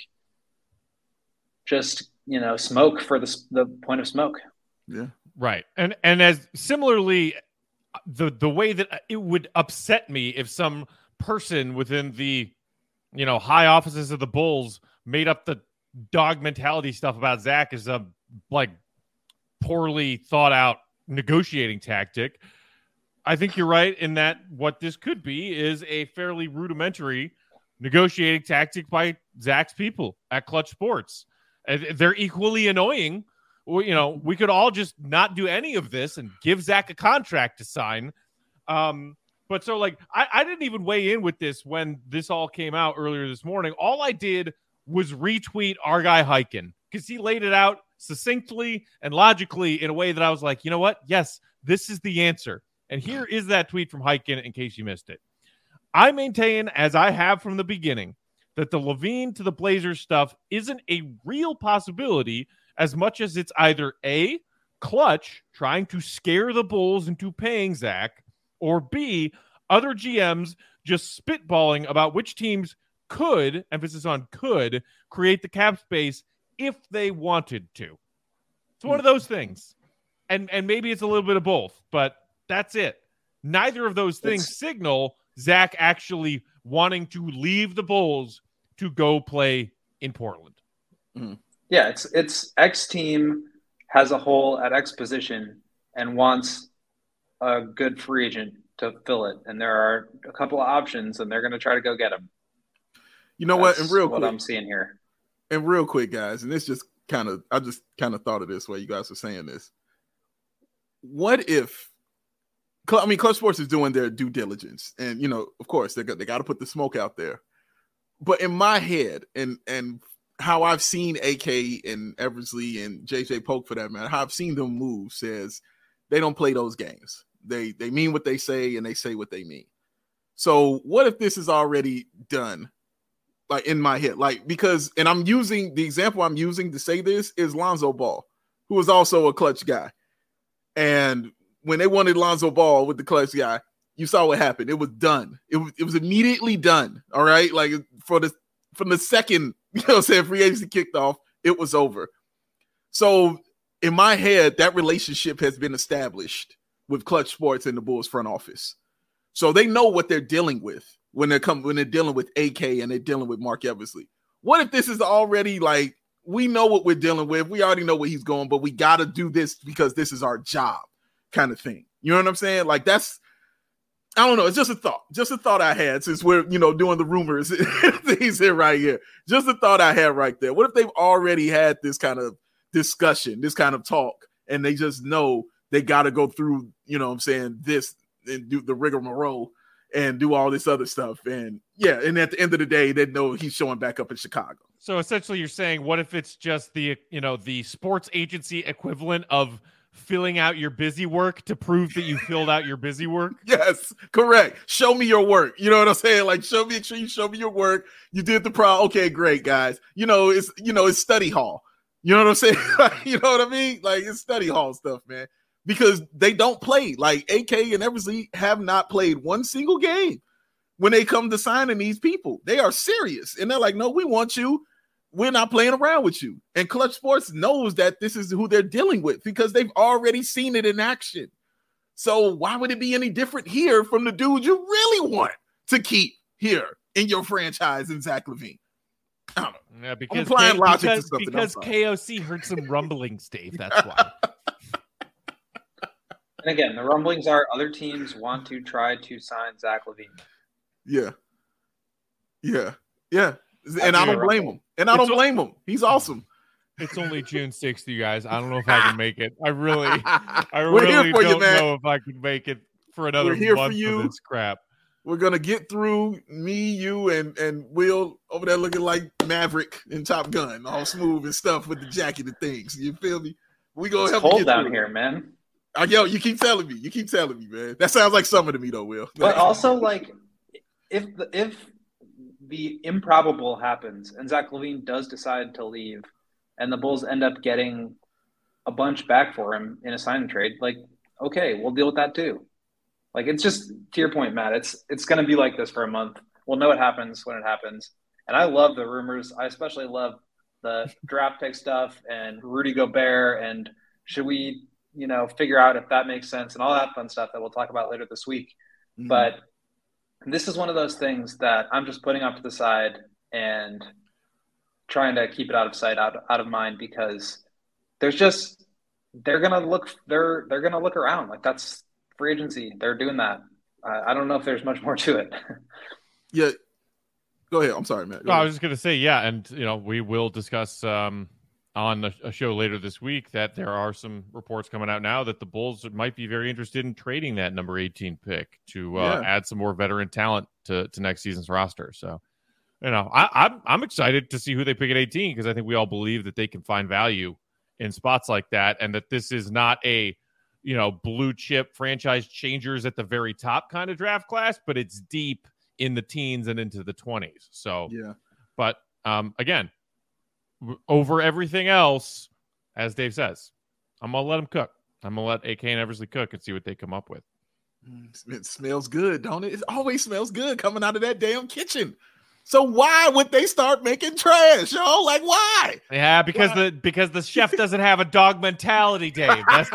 just, you know, smoke for the, the point of smoke. Yeah. Right. And, and as similarly, the, the way that it would upset me if some person within the, you know, high offices of the Bulls made up the dog mentality stuff about Zach as a like poorly thought out negotiating tactic. I think you're right in that what this could be is a fairly rudimentary negotiating tactic by Zach's people at Clutch Sports. They're equally annoying. You know, we could all just not do any of this and give Zach a contract to sign. Um, But so, like, I, I didn't even weigh in with this when this all came out earlier this morning. All I did was retweet our guy Highkin because he laid it out succinctly and logically in a way that I was like, you know what? Yes, this is the answer. And here is that tweet from Highkin in case you missed it. I maintain, as I have from the beginning, that the LaVine to the Blazers stuff isn't a real possibility as much as it's either A, Clutch trying to scare the Bulls into paying Zach, or B, other G Ms just spitballing about which teams could, emphasis on could, create the cap space if they wanted to. It's one of those things. And and maybe it's a little bit of both, but that's it. Neither of those things it's... signal Zach actually wanting to leave the Bulls to go play in Portland. Mm-hmm. Yeah, it's it's X team has a hole at X position and wants a good free agent to fill it, and there are a couple of options, and they're going to try to go get him. You know That's what? And real what quick, I'm seeing here. And real quick, guys, and this just kind of I just kind of thought of this while you guys were saying this. What if I mean Clutch Sports is doing their due diligence, and you know, of course, they got they got to put the smoke out there. But in my head, and and how I've seen A K and Eversley and J J Polk, for that matter, how I've seen them move, says they don't play those games. They they mean what they say, and they say what they mean. So what if this is already done? Like in my head, like because, and I'm using the example I'm using to say this is Lonzo Ball, who was also a clutch guy, and when they wanted Lonzo Ball with the clutch guy, you saw what happened. It was done. It was, it was immediately done. All right. Like for the, from the second, you know what I'm saying, free agency kicked off, it was over. So in my head, that relationship has been established with Clutch Sports and the Bulls front office. So they know what they're dealing with when they're come, when they're dealing with A K and they're dealing with Mark Eversley. What if this is already like, we know what we're dealing with. We already know where he's going, but we got to do this because this is our job. Kind of thing. You know what I'm saying? Like that's, I don't know. It's just a thought, just a thought I had since we're, you know, doing the rumors things here right here. Just a thought I had right there. What if they've already had this kind of discussion, this kind of talk, and they just know they got to go through, you know what I'm saying, this and do the rigmarole and do all this other stuff. And yeah. And at the end of the day, they know he's showing back up in Chicago. So essentially you're saying, what if it's just the, you know, the sports agency equivalent of filling out your busy work to prove that you filled out your busy work? Yes, correct. Show me your work. You know what I'm saying? Like, show me, make sure you show me your work. You did the pro. Okay, great, guys. You know, it's, you know, it's study hall. You know what I'm saying? You know what I mean? Like, it's study hall stuff, man, because they don't play. Like A K and Eversley have not played one single game when they come to signing these people. They are serious. And they're like, no, we want you. We're not playing around with you. And Clutch Sports knows that this is who they're dealing with because they've already seen it in action. So why would it be any different here from the dude you really want to keep here in your franchise in Zach LaVine? I don't know. Yeah, because, I'm applying K- logic because, to something. because K O C heard some rumblings, Dave. That's why. And again, the rumblings are other teams want to try to sign Zach LaVine. Yeah. Yeah. Yeah. And I don't blame him. And I don't blame him. He's awesome. It's only June sixth, you guys. I don't know if I can make it. I really, I We're really here for don't you, man. know if I can make it for another We're here month for you. of this crap. We're gonna get through me, you, and and Will over there looking like Maverick in Top Gun, all smooth and stuff with the jacket and things. You feel me? We gonna It's help cold you get down through. here, man. I, yo, you keep telling me. You keep telling me, man. That sounds like summer to me, though, Will. But also, like, if the, if the improbable happens and Zach LaVine does decide to leave, and the Bulls end up getting a bunch back for him in a sign and trade, like, okay, we'll deal with that too. Like, it's just, to your point, Matt, it's it's going to be like this for a month. We'll know what happens when it happens. And I love the rumors. I especially love the draft pick stuff and Rudy Gobert and should we, you know, figure out if that makes sense and all that fun stuff that we'll talk about later this week. Mm-hmm. But this is one of those things that I'm just putting off to the side and trying to keep it out of sight, out, out of mind, because there's just, they're going to look, they're, they're going to look around. Like, that's free agency. They're doing that. Uh, I don't know if there's much more to it. Yeah. Go ahead. I'm sorry, Matt. No, I was just going to say, yeah. And, you know, we will discuss um, on a, a show later this week that there are some reports coming out now that the Bulls might be very interested in trading that number eighteen pick to uh, Yeah. add some more veteran talent to, to next season's roster. So, you know, I, I'm, I'm excited to see who they pick at eighteen because I think we all believe that they can find value in spots like that and that this is not a, you know, blue chip franchise changers at the very top kind of draft class, but it's deep in the teens and into the twenties. So, Yeah. but um, again, w- over everything else, as Dave says, I'm going to let them cook. I'm going to let A K and Eversley cook and see what they come up with. It smells good, don't it? It always smells good coming out of that damn kitchen. So why would they start making trash, yo? Like, why? Yeah, because Why? the because the chef doesn't have a dog mentality, Dave. That's,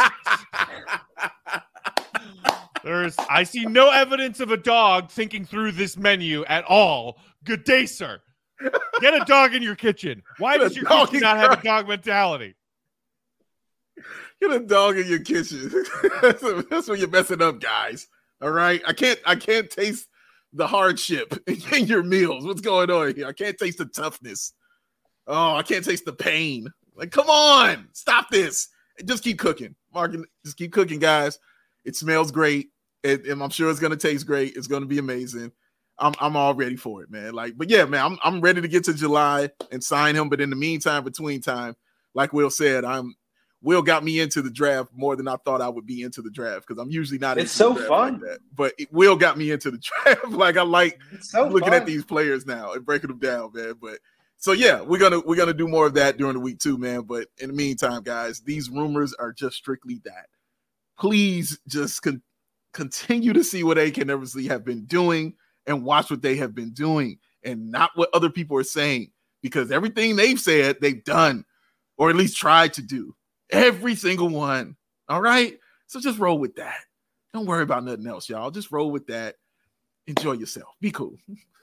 there's I see no evidence of a dog thinking through this menu at all. Good day, sir. Get a dog in your kitchen. Why Get a does your dog kitchen in not have a your- dog mentality? Get a dog in your kitchen. that's, that's when you're messing up, guys. All right. I can't I can't taste the hardship in your meals. What's going on here? I can't taste the toughness. Oh, I can't taste the pain. Like, come on, stop this. Just keep cooking. Mark, just keep cooking, guys. It smells great. It, and I'm sure it's going to taste great. It's going to be amazing. I'm I'm all ready for it, man. Like, but yeah, man, I'm I'm ready to get to July and sign him. But in the meantime, between time, like Will said, I'm Will got me into the draft more than I thought I would be into the draft because I'm usually not. It's so fun, like that. But it, Will got me into the draft. Like I like so looking fun. at these players now and breaking them down, man. But so yeah, we're gonna we're gonna do more of that during the week too, man. But in the meantime, guys, these rumors are just strictly that. Please just con- continue to see what A K Eversley have been doing and watch what they have been doing and not what other people are saying, because everything they've said, they've done, or at least tried to do. Every single one. All right. So just roll with that. Don't worry about nothing else, y'all. Just roll with that. Enjoy yourself. Be cool.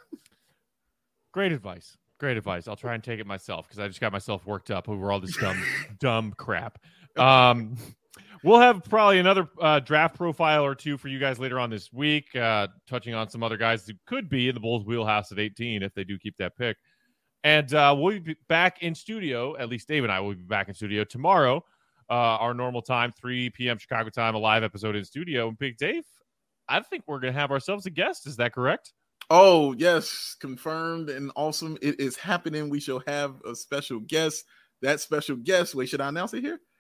Great advice. Great advice. I'll try and take it myself because I just got myself worked up over all this dumb, dumb crap. Um, We'll have probably another uh, draft profile or two for you guys later on this week, uh, touching on some other guys who could be in the Bulls' wheelhouse at eighteen if they do keep that pick. And uh, we'll be back in studio, at least Dave and I will be back in studio tomorrow, uh, our normal time, three p.m. Chicago time, a live episode in studio. And Big Dave, I think we're going to have ourselves a guest. Is that correct? Oh, yes. Confirmed and awesome. It is happening. We shall have a special guest. That special guest, wait, should I announce it here?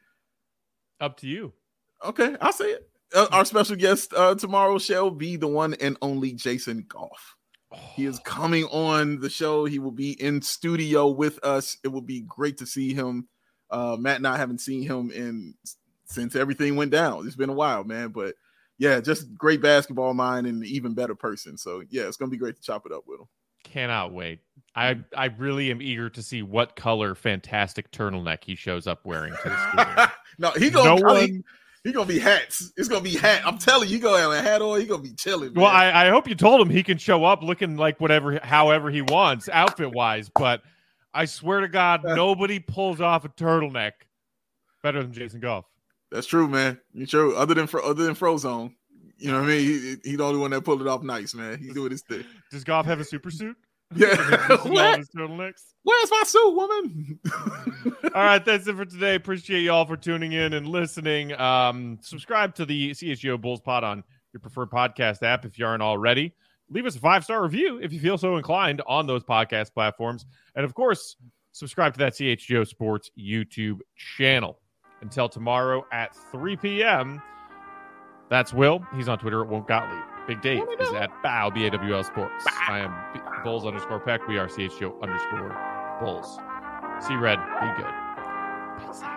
Up to you. Okay, I'll say it. Uh, our special guest uh, tomorrow shall be the one and only Jason Goff. Oh. He is coming on the show. He will be in studio with us. It will be great to see him. Uh, Matt and I haven't seen him in since everything went down. It's been a while, man. But yeah, just great basketball mind and an even better person. So yeah, it's gonna be great to chop it up with him. Cannot wait. I I really am eager to see what color fantastic turtleneck he shows up wearing to the studio. No, he gonna no one... he, he gonna be hats. It's gonna be hat. I'm telling you, he gonna have a hat on. He gonna be chilling. Man. Well, I, I hope you told him he can show up looking like whatever, however he wants, outfit wise. But I swear to God, nobody pulls off a turtleneck better than Jason Goff. That's true, man. You true. Other than other than Frozone, you know what I mean. He, he the only one that pulled it off nice, man. He's doing his thing. Does Goff have a super suit? Yeah. What? His turtlenecks? Where's my suit, woman? All right, that's it for today. Appreciate y'all for tuning in and listening. Um, subscribe to the C H G O Bulls Pod on your preferred podcast app if you aren't already. Leave us a five-star review if you feel so inclined on those podcast platforms. And, of course, subscribe to that C H G O Sports YouTube channel. Until tomorrow at three p.m., that's Will. He's on Twitter at Won't Gottlieb. Big Dave is at Bow, B A W L Sports. Bow. I am B- Bulls underscore Peck. We are C H G O underscore Bulls. See Red. Be good. Peace out.